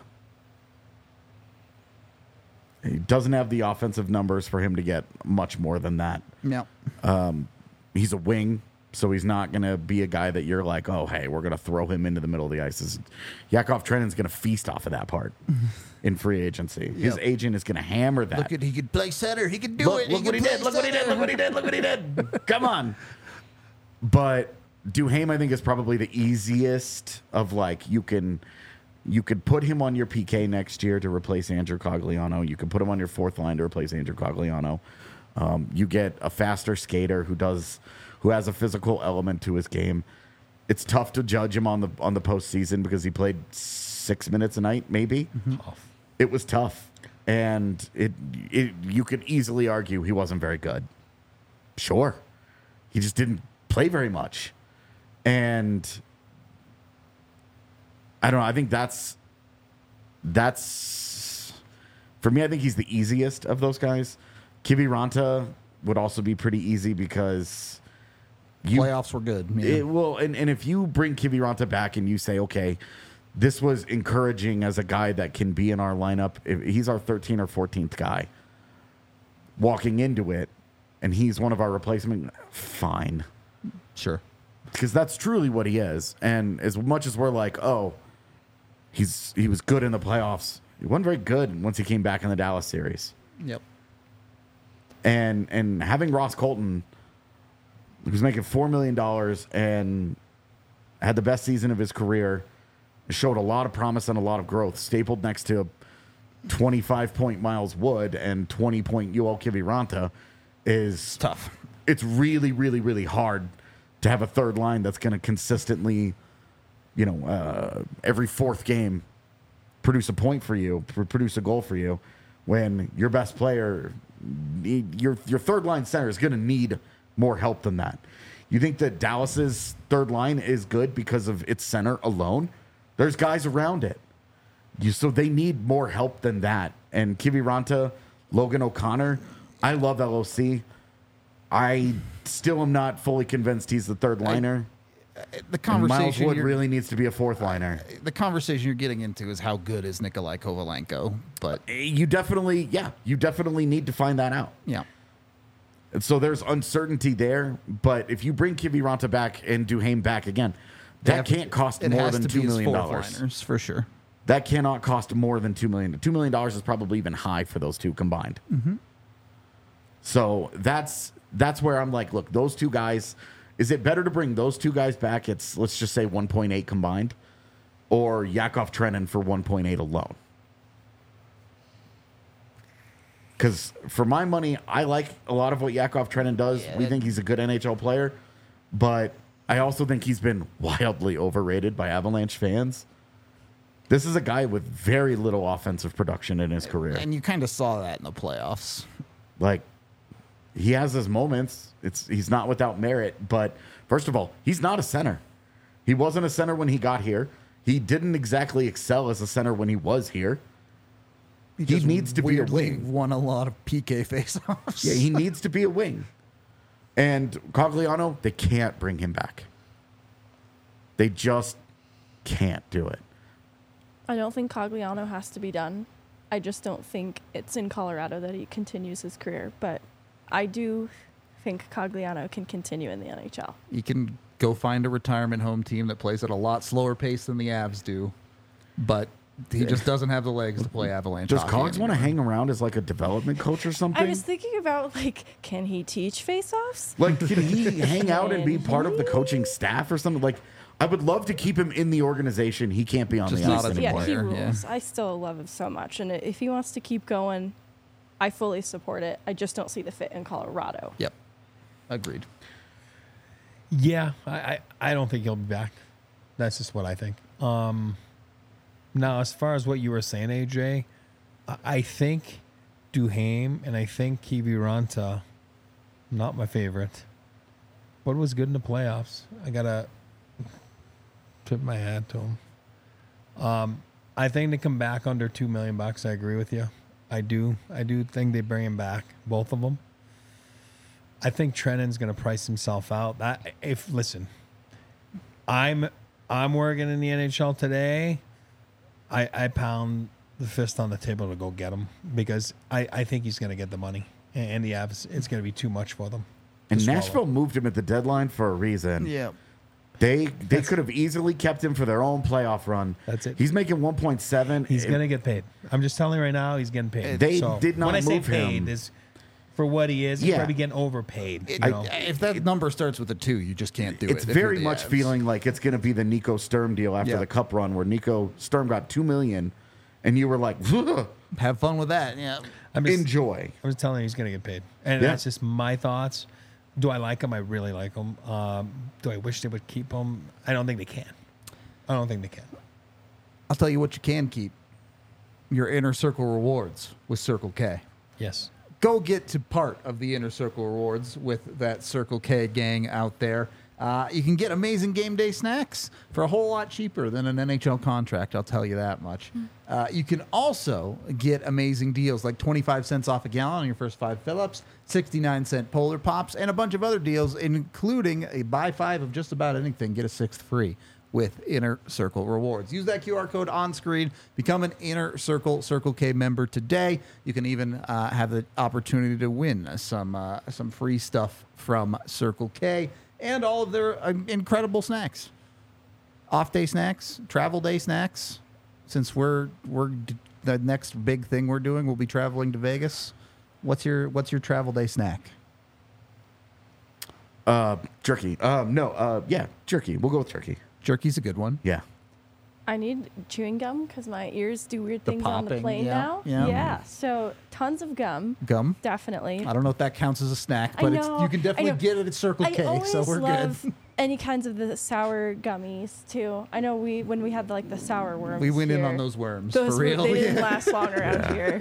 He doesn't have the offensive numbers for him to get much more than that. no. He's a wing, so he's not going to be a guy that you're like, oh, hey, we're going to throw him into the middle of the ice. Yakov Trenin's going to feast off of that part in free agency. His Yep. agent is going to hammer that. Look at he could play center. He could do Look, it. look what he did. Look what he did. Look what he did. Look what he did. Come on. But Duhaime, I think, is probably the easiest of, like, you could put him on your PK next year to replace Andrew Cogliano. You could put him on your 4th line to replace Andrew Cogliano. You get a faster skater who has a physical element to his game. It's tough to judge him on the postseason because he played 6 minutes a night, maybe. Tough. It was tough, and you could easily argue he wasn't very good. Sure, he just didn't play very much, and I don't know. I think that's for me. I think he's the easiest of those guys. Kiviranta would also be pretty easy because Playoffs were good. Yeah. and if you bring Kiviranta back and you say, okay, this was encouraging as a guy that can be in our lineup. If he's our 13th or 14th guy walking into it, and he's one of our replacement, fine. Sure. Because that's truly what he is. And as much as we're like, oh, he was good in the playoffs, he wasn't very good once he came back in the Dallas series. Yep. And having Ross Colton, who was making $4 million and had the best season of his career, showed a lot of promise and a lot of growth, stapled next to 25-point Miles Wood and 20-point Yoel Kiviranta is Tough. It's really, really, really hard to have a third line that's going to consistently, every fourth game produce a point for you, produce a goal for you, when your best player, your third line center is going to need more help than that. You think that Dallas's third line is good because of its center alone? There's guys around it. So they need more help than that. And Kiviranta, Logan O'Connor, I love LOC. I still am not fully convinced he's the third liner. The And conversation Miles Wood you're- really needs to be a fourth liner. the conversation you're getting into is how good is Nikolai Kovalenko, but You definitely need to find that out. yeah. And so there's uncertainty there. But if you bring Kiviranta back and Duhaime back again, that can't cost It more has than to $2 be his million. fourth liners, for sure. That cannot cost more than $2 million. $2 million is probably even high for those two combined. Mm-hmm. So that's where I'm like, look, those two guys. Is it better to bring those two guys back? It's, let's just say 1.8 combined, or Yakov Trenin for 1.8 alone? Because for my money, I like a lot of what Yakov Trenin does. We think he's a good NHL player, but I also think he's been wildly overrated by Avalanche fans. This is a guy with very little offensive production in his career. And you kind of saw that in the playoffs. Like, he has his moments. He's not without merit, but first of all, he's not a center. He wasn't a center when he got here. He didn't exactly excel as a center when he was here. He just needs to be a weirdly wing. Won a lot of PK faceoffs. Yeah, he needs to be a wing. And Cogliano, they can't bring him back. They just can't do it. I don't think Cogliano has to be done. I just don't think it's in Colorado that he continues his career. But I do think Cogliano can continue in the NHL. You can go find a retirement home team that plays at a lot slower pace than the Avs do, but he just doesn't have the legs to play Avalanche. Does hockey Cogs want to anymore. hang around as like a development coach or something? I was thinking about, can he teach face-offs? Like, can he hang out and be part of the coaching staff or something? Like, I would love to keep him in the organization. He can't be on Just the not ice as a anymore. Yeah, he player, rules. yeah. I still love him so much. And if he wants to keep going, I fully support it. I just don't see the fit in Colorado. Yep. Agreed. Yeah, I don't think he'll be back. That's just what I think. Now, as far as what you were saying, AJ, I think Duhaime and I think Kiviranta, not my favorite, but was good in the playoffs. I got to tip my hat to him. I think they come back under $2 million. I agree with you. I do think they bring him back, both of them. I think Trenin's going to price himself out. Listen, I'm working in the NHL today. I pound the fist on the table to go get him because I think he's going to get the money, and the Avs, it's going to be too much for them. And to swallow. Nashville moved him at the deadline for a reason. Yeah. They could have easily kept him for their own playoff run. That's it. He's making 1.7. He's going to get paid. I'm just telling you right now, he's getting paid. They did not when I say move paid, him. is for what he is. He's Yeah. probably getting overpaid. you I- know? if that number starts with a 2, you just can't do it. It's if very you're the much Avs. feeling like it's going to be the Nico Sturm deal after Yeah. the Cup run, where Nico Sturm got $2 million, and you were like, Have fun with that. Yeah. I'm just enjoy. telling you, he's going to get paid, and Yeah. that's just my thoughts. Do I like him? I really like him. Do I wish they would keep him? I don't think they can. I don't think they can. I'll tell you what you can keep. Your Inner Circle rewards with Circle K. Yes. Go get to part of the Inner Circle rewards with that Circle K gang out there. You can get amazing game day snacks for a whole lot cheaper than an NHL contract, I'll tell you that much. You can also get amazing deals like 25 cents off a gallon on your first 5 fill-ups, 69-cent Polar Pops, and a bunch of other deals, including a buy 5 of just about anything, get a 6th free with Inner Circle rewards. Use that QR code on screen. Become an Inner Circle Circle K member today. You can even have the opportunity to win some free stuff from Circle K and all of their incredible snacks. Off day snacks, travel day snacks. Since the next big thing we're doing, we'll be traveling to Vegas. What's your travel day snack? Jerky. Yeah, jerky. We'll go with jerky. Jerky's a good one. Yeah. I need chewing gum because my ears do weird The things on the popping, plane yeah, now. yeah. So tons of gum. Gum? Definitely. I don't know if that counts as a snack, I but know, you can definitely I know. get it at Circle I K, always so we're love good. any kinds of the sour gummies too. I know when we had the sour worms. We went in here, on those worms Those for real. they didn't Yeah. last long around here.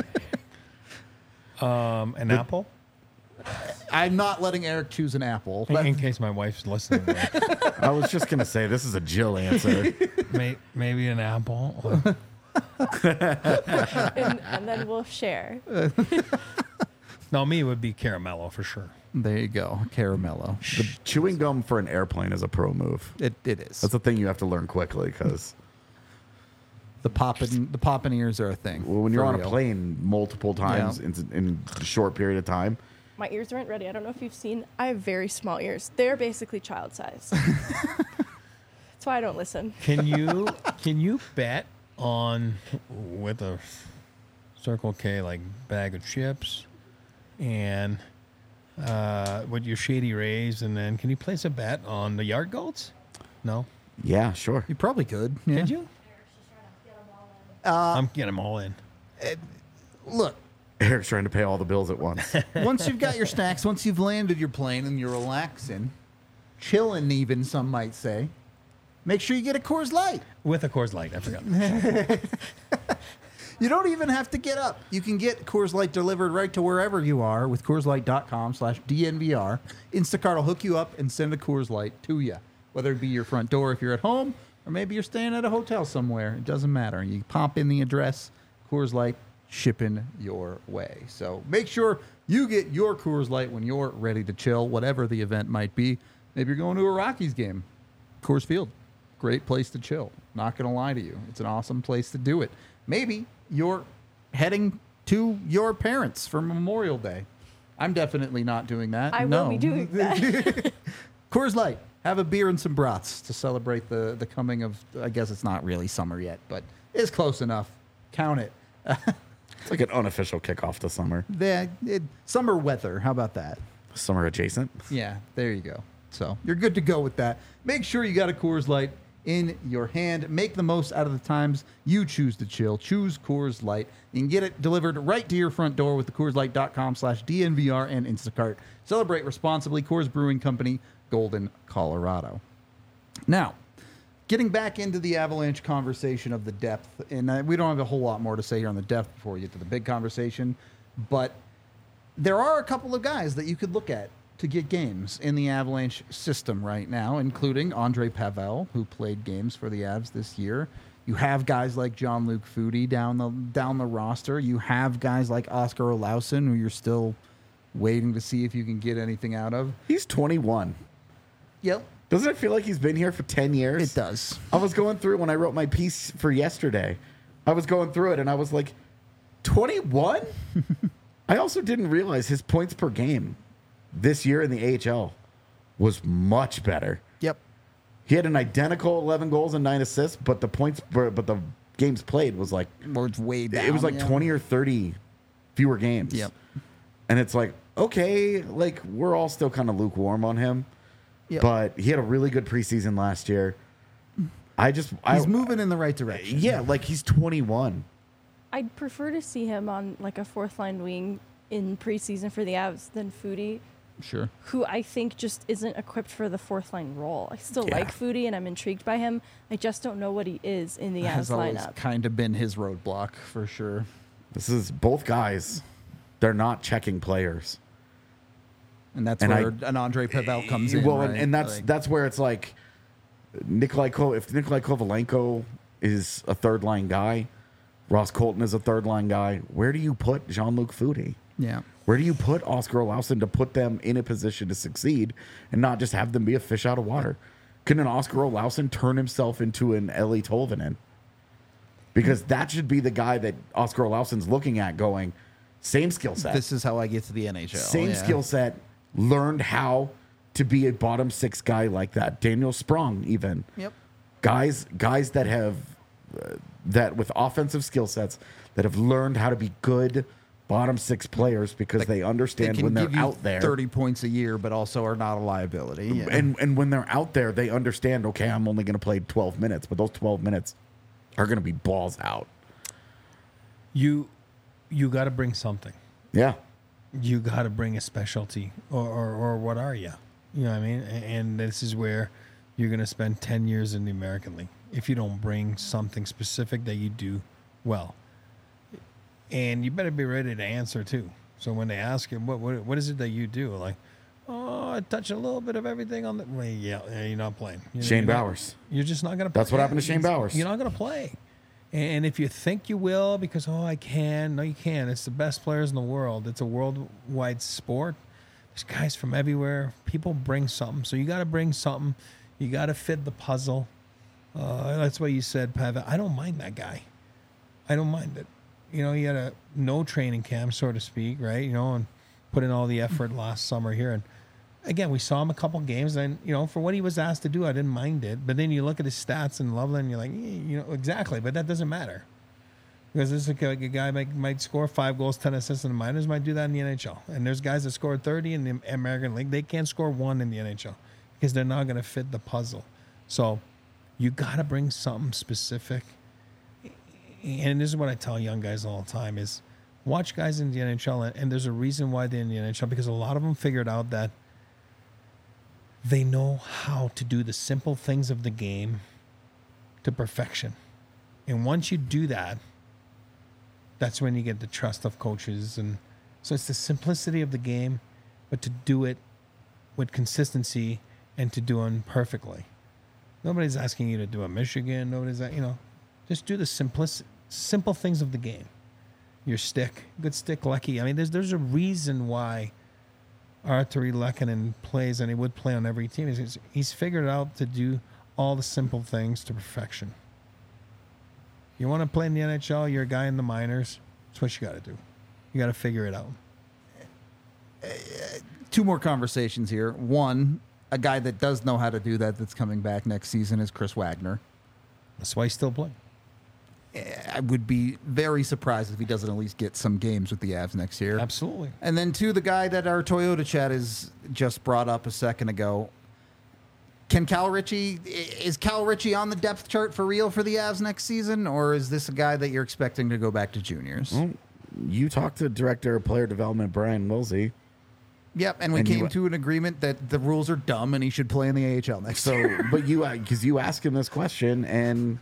An apple? I'm not letting Eric choose an apple. In case my wife's listening. I was just going to say, this is a Jill answer. Maybe an apple. and then we'll share. No, me, it would be caramello for sure. There you go, caramello. The chewing gum for an airplane is a pro move. It is. That's a thing you have to learn quickly because The popping ears are a thing. when you're for on a real. plane multiple times in a short period of time, My ears aren't ready. I don't know if you've seen. I have very small ears. They're basically child size. That's why I don't listen. Can you bet on with a Circle K bag of chips and with your Shady Rays, and then can you place a bet on the yard goats? No. yeah, sure. You probably could. Yeah. Did you? I'm getting them all in. Look, Eric's trying to pay all the bills at once. once you've got your snacks, once you've landed your plane and you're relaxing, chilling even, some might say, make sure you get a Coors Light. With a Coors Light, I forgot. You don't even have to get up. You can get Coors Light delivered right to wherever you are with CoorsLight.com/DNVR. Instacart will hook you up and send a Coors Light to you, whether it be your front door if you're at home, or maybe you're staying at a hotel somewhere. It doesn't matter. You pop in the address, Coors Light shipping your way. So make sure you get your Coors Light when you're ready to chill, whatever the event might be. Maybe you're going to a Rockies game. Coors Field, great place to chill. Not going to lie to you. It's an awesome place to do it. Maybe you're heading to your parents for Memorial Day. I'm definitely not doing that. I no. will be doing that. Coors Light. Have a beer and some brats to celebrate the coming of, I guess it's not really summer yet, but it's close enough. Count it. It's like an unofficial kickoff to summer. Summer weather. How about that? Summer adjacent. Yeah, there you go. So you're good to go with that. Make sure you got a Coors Light in your hand. Make the most out of the times you choose to chill. Choose Coors Light. You can get it delivered right to your front door with the CoorsLight.com/DNVR and Instacart. Celebrate responsibly. Coors Brewing Company, Golden, Colorado. Now, getting back into the Avalanche conversation of the depth, and we don't have a whole lot more to say here on the depth before we get to the big conversation, but there are a couple of guys that you could look at to get games in the Avalanche system right now, including Andre Pavel, who played games for the Avs this year. You have guys like Jean-Luc Foudy down the roster. You have guys like Oscar Olausson, who you're still waiting to see if you can get anything out of. He's 21. Yep, Doesn't it feel like he's been here for 10 years? it does. I was going through when I wrote my piece for yesterday. I was going through it and I was like, 21? I also didn't realize his points per game this year in the AHL was much better. Yep. He had an identical 11 goals and 9 assists, but the games played was like It's way down. it was like yeah. 20 or 30 fewer games. Yep. And it's like, okay, like we're all still kind of lukewarm on him. Yep. But he had a really good preseason last year. He's moving in the right direction. Yeah, like he's 21. I'd prefer to see him on a fourth line wing in preseason for the Avs than Foudy, Sure. who I think just isn't equipped for the fourth line role. I still Yeah. like Foodie and I'm intrigued by him. I just don't know what he is in the Avs Has always lineup. kind of been his roadblock for sure. This is both guys. They're not checking players. And that's And where an Andre Pavel comes in. Well, right? and that's Like, that's where it's like if Nikolai Kovalenko is a third line guy, Ross Colton is a third line guy. Where do you put Jean-Luc Foudy? yeah. Where do you put Oscar Olausson to put them in a position to succeed and not just have them be a fish out of water? Can an Oscar Olausson turn himself into an Eli Tolvanen? Because that should be the guy that Oscar Olausson's looking at going, same skill set. This is how I get to the NHL. Same yeah. skill set, learned how to be a bottom six guy like that. Daniel Sprong, even. Yep. Guys that have, that with offensive skill sets, that have learned how to be good bottom six players because they understand can when they're give you out there. 30 points a year, but also are not a liability. Yeah. And when they're out there, they understand, okay, I'm only going to play 12 minutes, but those 12 minutes are going to be balls out. You got to bring something. Yeah. You got to bring a specialty, or what are you? You know what I mean? And this is where you're going to spend 10 years in the American League if you don't bring something specific that you do well. And you better be ready to answer too. So when they ask you, what is it that you do? Like, oh, I touch a little bit of everything on the. Well, yeah, you're not playing. Shane Bowers. You're just not going to. That's what happened to Shane Bowers. You're not going to play. And if you think you will, because I can, no, you can't. It's the best players in the world. It's a worldwide sport. There's guys from everywhere. People bring something, so you got to bring something. You got to fit the puzzle. That's why you said, Pavel. I don't mind that guy. I don't mind it. You know, he had a no training camp, so to speak, right? You know, and put in all the effort last summer here. And again, we saw him a couple games, and you know, for what he was asked to do, I didn't mind it. But then you look at his stats in Loveland, and you're like, you know, exactly. But that doesn't matter because this is a guy might score 5 goals, 10 assists in the minors, might do that in the NHL. And there's guys that score 30 in the American League. They can't score 1 in the NHL because they're not going to fit the puzzle. So you got to bring something specific. And this is what I tell young guys all the time is watch guys in the NHL, and there's a reason why they're in the NHL, because a lot of them figured out that they know how to do the simple things of the game to perfection. And once you do that, that's when you get the trust of coaches. And so it's the simplicity of the game, but to do it with consistency and to do it perfectly. Nobody's asking you to do a Michigan. Nobody's, just do the simple things of the game. Your stick, good stick, Lecky. I mean, there's a reason why Artturi Lehkonen plays, and he would play on every team. He's figured out to do all the simple things to perfection. You want to play in the NHL, you're a guy in the minors, that's what you got to do. You got to figure it out. 2 more conversations here. One, a guy that does know how to do that that's coming back next season is Chris Wagner. That's why he's still playing. I would be very surprised if he doesn't at least get some games with the Avs next year. Absolutely. And then 2, the guy that our Toyota chat is just brought up a second ago. Is Cal Ritchie on the depth chart for real for the Avs next season, or is this a guy that you're expecting to go back to juniors? Well, you talked to Director of Player Development Brian Wilsey. Yep, and we came to an agreement that the rules are dumb and he should play in the AHL next year. But because you asked him this question, and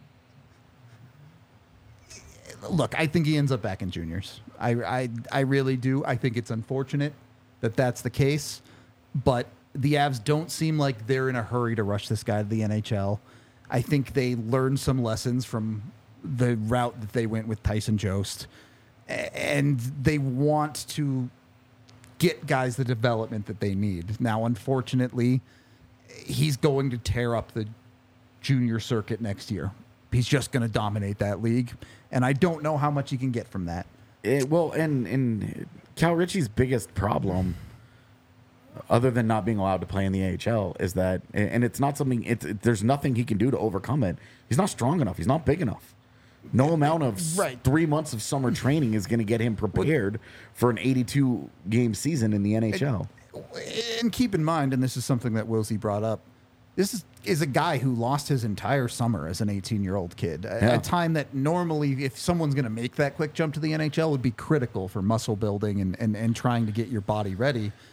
look, I think he ends up back in juniors. I really do. I think it's unfortunate that that's the case, but the Avs don't seem like they're in a hurry to rush this guy to the NHL. I think they learned some lessons from the route that they went with Tyson Jost, and they want to get guys the development that they need. Now, unfortunately, he's going to tear up the junior circuit next year. He's just going to dominate that league, and I don't know how much he can get from that. And Cal Ritchie's biggest problem, other than not being allowed to play in the AHL, is that, and it's not something, there's nothing he can do to overcome it. He's not strong enough. He's not big enough. No amount of 3 months of summer training is going to get him prepared for an 82-game season in the NHL. And keep in mind, and this is something that Wilsey brought up, this is a guy who lost his entire summer as an 18-year-old kid. A time that normally, if someone's going to make that quick jump to the NHL, would be critical for muscle building and trying to get your body ready.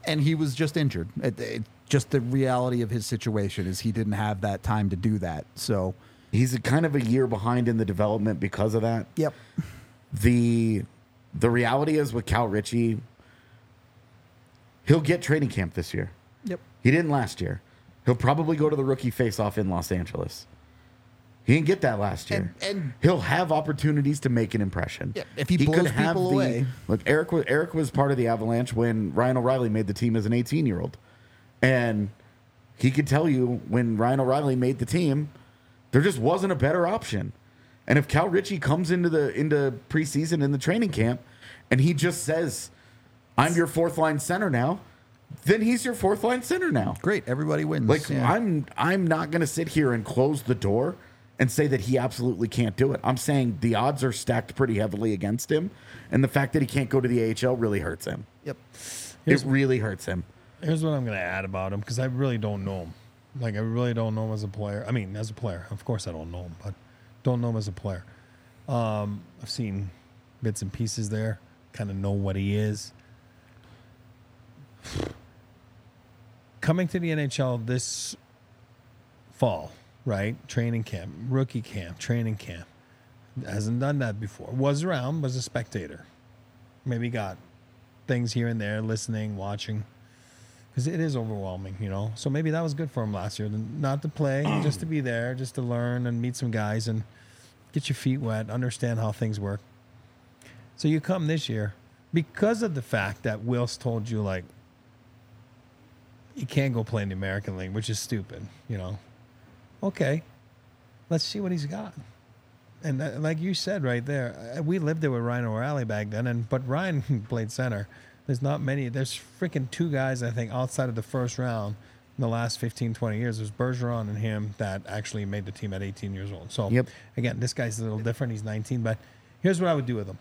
And he was just injured. Just the reality of his situation is he didn't have that time to do that. So he's kind of a year behind in the development because of that. Yep. The reality is with Cal Ritchie, he'll get training camp this year. Yep. He didn't last year. He'll probably go to the rookie face-off in Los Angeles. He didn't get that last year. And he'll have opportunities to make an impression. Yeah, if he blows people away. Look, Eric was part of the Avalanche when Ryan O'Reilly made the team as an 18-year-old. And he could tell you when Ryan O'Reilly made the team, there just wasn't a better option. And if Cal Ritchie comes into preseason in the training camp and he just says, I'm your fourth line center now, then he's your fourth line center now. Great. Everybody wins. Like, yeah. I'm not going to sit here and close the door and say that he absolutely can't do it. I'm saying the odds are stacked pretty heavily against him. And the fact that he can't go to the AHL really hurts him. Yep. It really hurts him. Here's what I'm going to add about him, because I really don't know him. Like, I really don't know him as a player. I mean, as a player. Of course I don't know him, but don't know him as a player. I've seen bits and pieces there. Kind of know what he is. Coming to the NHL this fall, right? Training camp, rookie camp, training camp. Hasn't done that before. Was around, was a spectator. Maybe got things here and there, listening, watching. Because it is overwhelming, you know. So maybe that was good for him last year. Not to play, just to be there, just to learn and meet some guys and get your feet wet, understand how things work. So you come this year, because of the fact that Wills told you, like, you can't go play in the American League, which is stupid, you know. Okay, let's see what he's got. And like you said right there, we lived there with Ryan O'Reilly back then, but Ryan played center. There's not many. There's freaking two guys, I think, outside of the first round in the last 15, 20 years. There's Bergeron and him that actually made the team at 18 years old. So, Again, this guy's a little different. He's 19, but here's what I would do with him.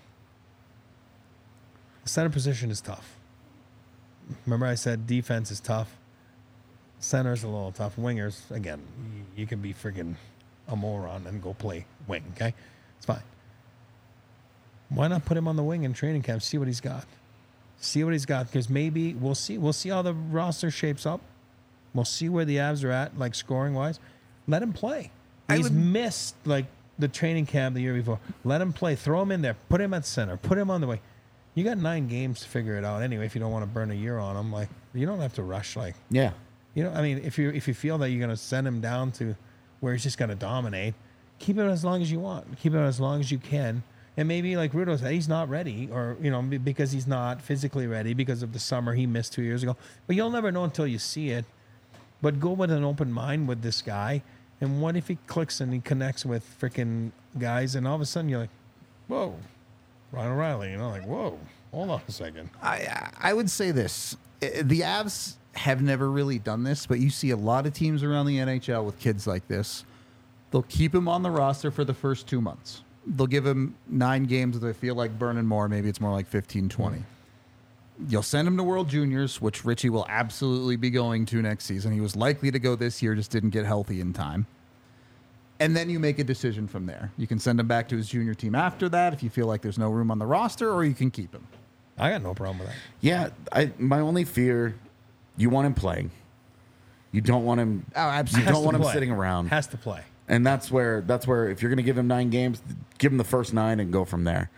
The center position is tough. Remember I said defense is tough. Center's a little tough. Wingers, again, you can be freaking a moron and go play wing, okay? It's fine. Why not put him on the wing in training camp, see what he's got? See what he's got, because maybe we'll see how the roster shapes up. We'll see where the Avs are at, like scoring-wise. Let him play. He's missed, like, the training camp the year before. Let him play. Throw him in there. Put him at center. Put him on the wing. You got 9 games to figure it out anyway if you don't want to burn a year on him. Like, you don't have to rush, like... Yeah. You know, I mean, if you feel that you're going to send him down to where he's just going to dominate, keep it as long as you want. Keep it as long as you can. And maybe, like Rudo said, he's not ready, or, you know, because he's not physically ready because of the summer he missed 2 years ago. But you'll never know until you see it. But go with an open mind with this guy. And what if he clicks and he connects with freaking guys, and all of a sudden you're like, whoa, Ryan O'Reilly, you know, like, whoa, hold on a second. I would say this. The Avs have never really done this, but you see a lot of teams around the NHL with kids like this. They'll keep him on the roster for the first 2 months. They'll give him 9 games if they feel like burning more. Maybe it's more like 15, 20. You'll send him to World Juniors, which Ritchie will absolutely be going to next season. He was likely to go this year, just didn't get healthy in time. And then you make a decision from there. You can send him back to his junior team after that if you feel like there's no room on the roster, or you can keep him. I got no problem with that. Yeah, my only fear, you want him playing. You don't want him. Oh, absolutely. You don't want him sitting around. Has to play. And that's where if you're going to give him 9 games, give him the first 9 and go from there.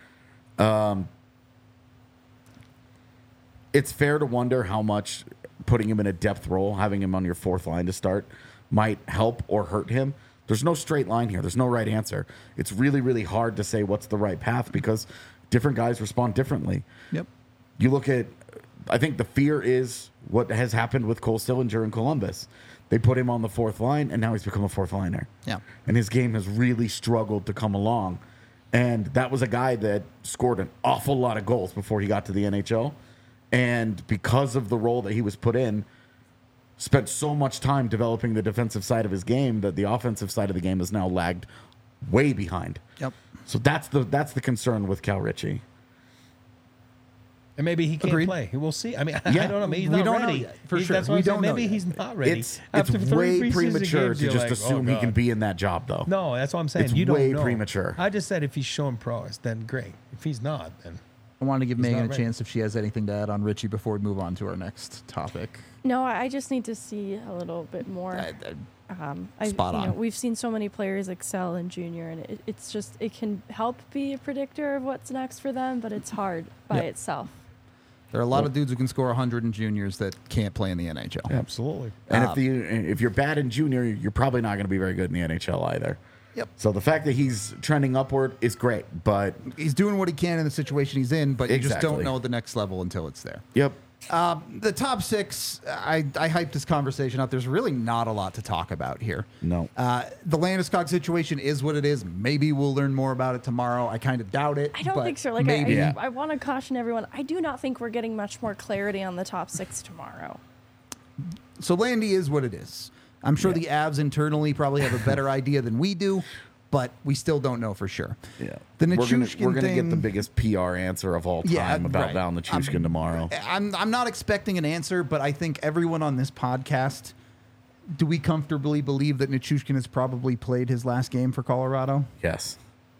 It's fair to wonder how much putting him in a depth role, having him on your fourth line to start, might help or hurt him. There's no straight line here. There's no right answer. It's really, really hard to say what's the right path because different guys respond differently. Yep. You look at, I think the fear is what has happened with Cole Sillinger in Columbus. They put him on the fourth line, and now he's become a fourth liner. Yeah. And his game has really struggled to come along. And that was a guy that scored an awful lot of goals before he got to the NHL. And because of the role that he was put in, spent so much time developing the defensive side of his game that the offensive side of the game has now lagged way behind. Yep. So that's the concern with Cal Ritchie. And maybe he can't Agreed. play. We'll see. I mean, Yeah. I don't know. Maybe he's We not don't know ready. yet, for sure. That's what We I'm saying. don't know Maybe yet. he's not ready. It's After 3 way preseason premature games, to you're just like, assume oh, he can God. be in that job, though. No, that's what I'm saying. It's you don't way know. premature. I just said if he's showing prowess, then great. If he's not, then I wanted to give He's Megan not a ready. chance if she has anything to add on Richie before we move on to our next topic. No, I just need to see a little bit more. Spot on. We've seen so many players excel in junior, and it's just it can help be a predictor of what's next for them, but it's hard by Yep. itself. There are a lot of dudes who can score 100 in juniors that can't play in the NHL. Absolutely. And if you're bad in junior, you're probably not going to be very good in the NHL either. Yep. So the fact that he's trending upward is great, but He's doing what he can in the situation he's in, but you just don't Exactly. know the next level until it's there. yep. The top six, I hyped this conversation up. There's really not a lot to talk about here. No. The Landeskog situation is what it is. Maybe we'll learn more about it tomorrow. I kind of doubt it. I don't but think so. Like maybe. I want to caution everyone. I do not think we're getting much more clarity on the top six tomorrow. So Landy is what it is. I'm sure the Avs internally probably have a better idea than we do, but we still don't know for sure. Yeah. The we're Nichushkin gonna get thing- the biggest PR answer of all time Yeah, about right. Val Nichushkin tomorrow. I'm not expecting an answer, but I think everyone on this podcast, do we comfortably believe that Nichushkin has probably played his last game for Colorado? Yes.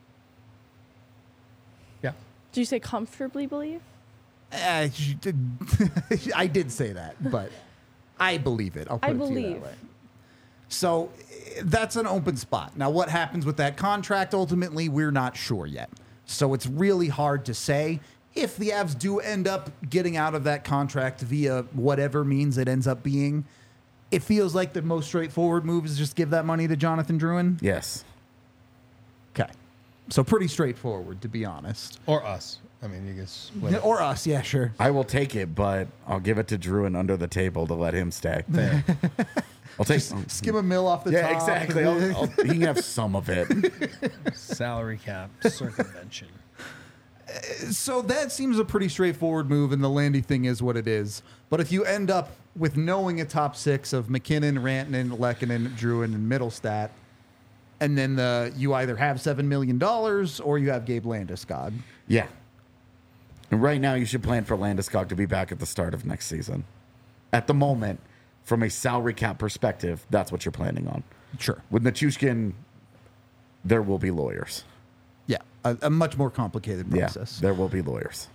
Yeah. Did you say comfortably believe? I did say that, but I believe it. I'll put I it to you that believe. way. So that's an open spot. Now, what happens with that contract ultimately, we're not sure yet. So it's really hard to say. If the Avs do end up getting out of that contract via whatever means it ends up being, it feels like the most straightforward move is just give that money to Jonathan Drouin. Yes. Okay. So pretty straightforward, to be honest. Or us. I mean, you guess. whatever. Or us, yeah, sure. I will take it, but I'll give it to Druin under the table to let him stay. Fair. I'll take. Skim a mill off the Yeah, top. exactly. He can have some of it. Salary cap circumvention. So that seems a pretty straightforward move, and the Landy thing is what it is. But if you end up with knowing a top six of McKinnon, Rantanen, Lehkonen, Drouin, and Middlestat, and then you either have $7 million or you have Gabe Landeskog. Yeah. And right now, you should plan for Landeskog to be back at the start of next season. At the moment, from a salary cap perspective, that's what you're planning on. Sure. With Nichushkin, there will be lawyers. Yeah, a much more complicated process. Yeah, there will be lawyers.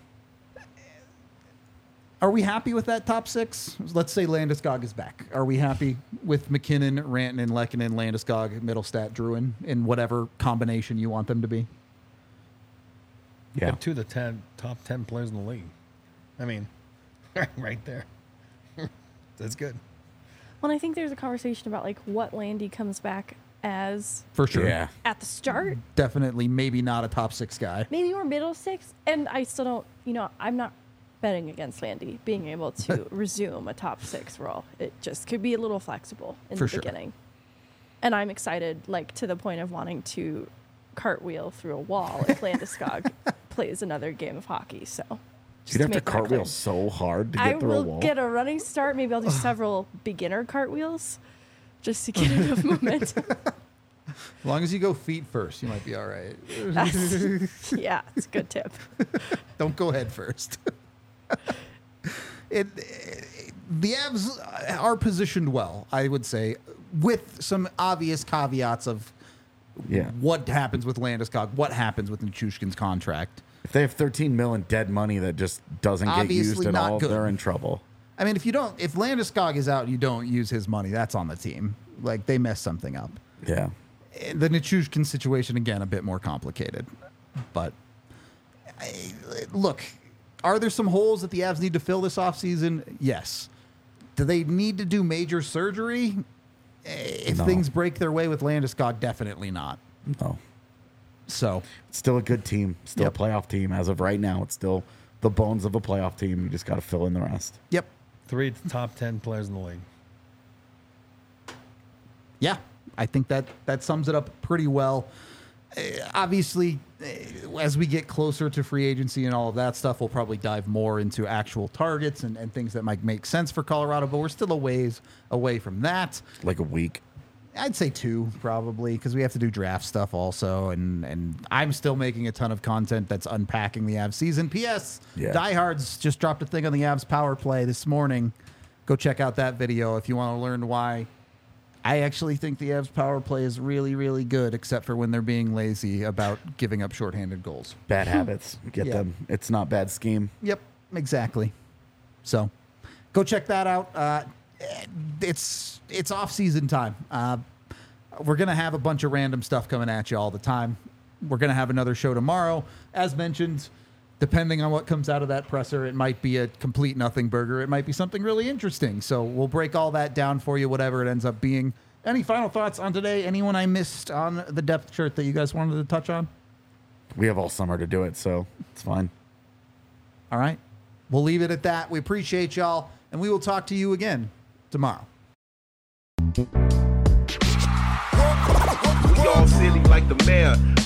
Are we happy with that top six? Let's say Landeskog is back. Are we happy with McKinnon, Rantanen, Lehkonen, Landeskog, Middlestat, Drouin, in whatever combination you want them to be? Yeah. Up to the top 10 players in the league. I mean, right there. That's good. Well, I think there's a conversation about like what Landy comes back as For sure. Yeah. at the start. Definitely, maybe not a top six guy. Maybe more middle six. And I still don't, I'm not betting against Landy being able to resume a top six role. It just could be a little flexible in For the sure. beginning. And I'm excited, like to the point of wanting to cartwheel through a wall if Landeskog plays another game of hockey. So just You'd have to make that cartwheel clear. so hard to I get through a will wall. get a running start. Maybe I'll do several beginner cartwheels just to get enough momentum. As long as you go feet first, you might be all right. Yeah, it's a good tip. Don't go head first. The Avs are positioned well, I would say, with some obvious caveats of Yeah. what happens with Landeskog, what happens with Nichushkin's contract. If they have 13 mil in dead money that just doesn't get Obviously used at not all, good. they're in trouble. I mean, if Landeskog is out and you don't use his money, that's on the team. Like, they mess something up. Yeah. The Nichushkin situation, again, a bit more complicated. But, look, are there some holes that the Avs need to fill this offseason? Yes. Do they need to do major surgery? If No. things break their way with Landeskog, definitely not. No. So, It's still a good team. Still Yep. a playoff team. As of right now, it's still the bones of a playoff team. You just got to fill in the rest. yep. 3 top 10 players in the league. Yeah, I think that sums it up pretty well. Obviously, as we get closer to free agency and all of that stuff, we'll probably dive more into actual targets and things that might make sense for Colorado, but we're still a ways away from that. Like a week. I'd say 2 probably, because we have to do draft stuff also, and I'm still making a ton of content that's unpacking the Avs season. P.S. Yeah. Diehards just dropped a thing on the Avs power play this morning. Go check out that video if you want to learn why I actually think the Avs power play is really, really good, except for when they're being lazy about giving up shorthanded goals. Bad habits. Get Yeah. them. It's not bad scheme. Yep, exactly. So go check that out. It's off-season time. We're going to have a bunch of random stuff coming at you all the time. We're going to have another show tomorrow. As mentioned, depending on what comes out of that presser, it might be a complete nothing burger. It might be something really interesting. So we'll break all that down for you, whatever it ends up being. Any final thoughts on today? Anyone I missed on the depth chart that you guys wanted to touch on? We have all summer to do it, so it's fine. All right. We'll leave it at that. We appreciate y'all, and we will talk to you again tomorrow. We all silly like the mayor.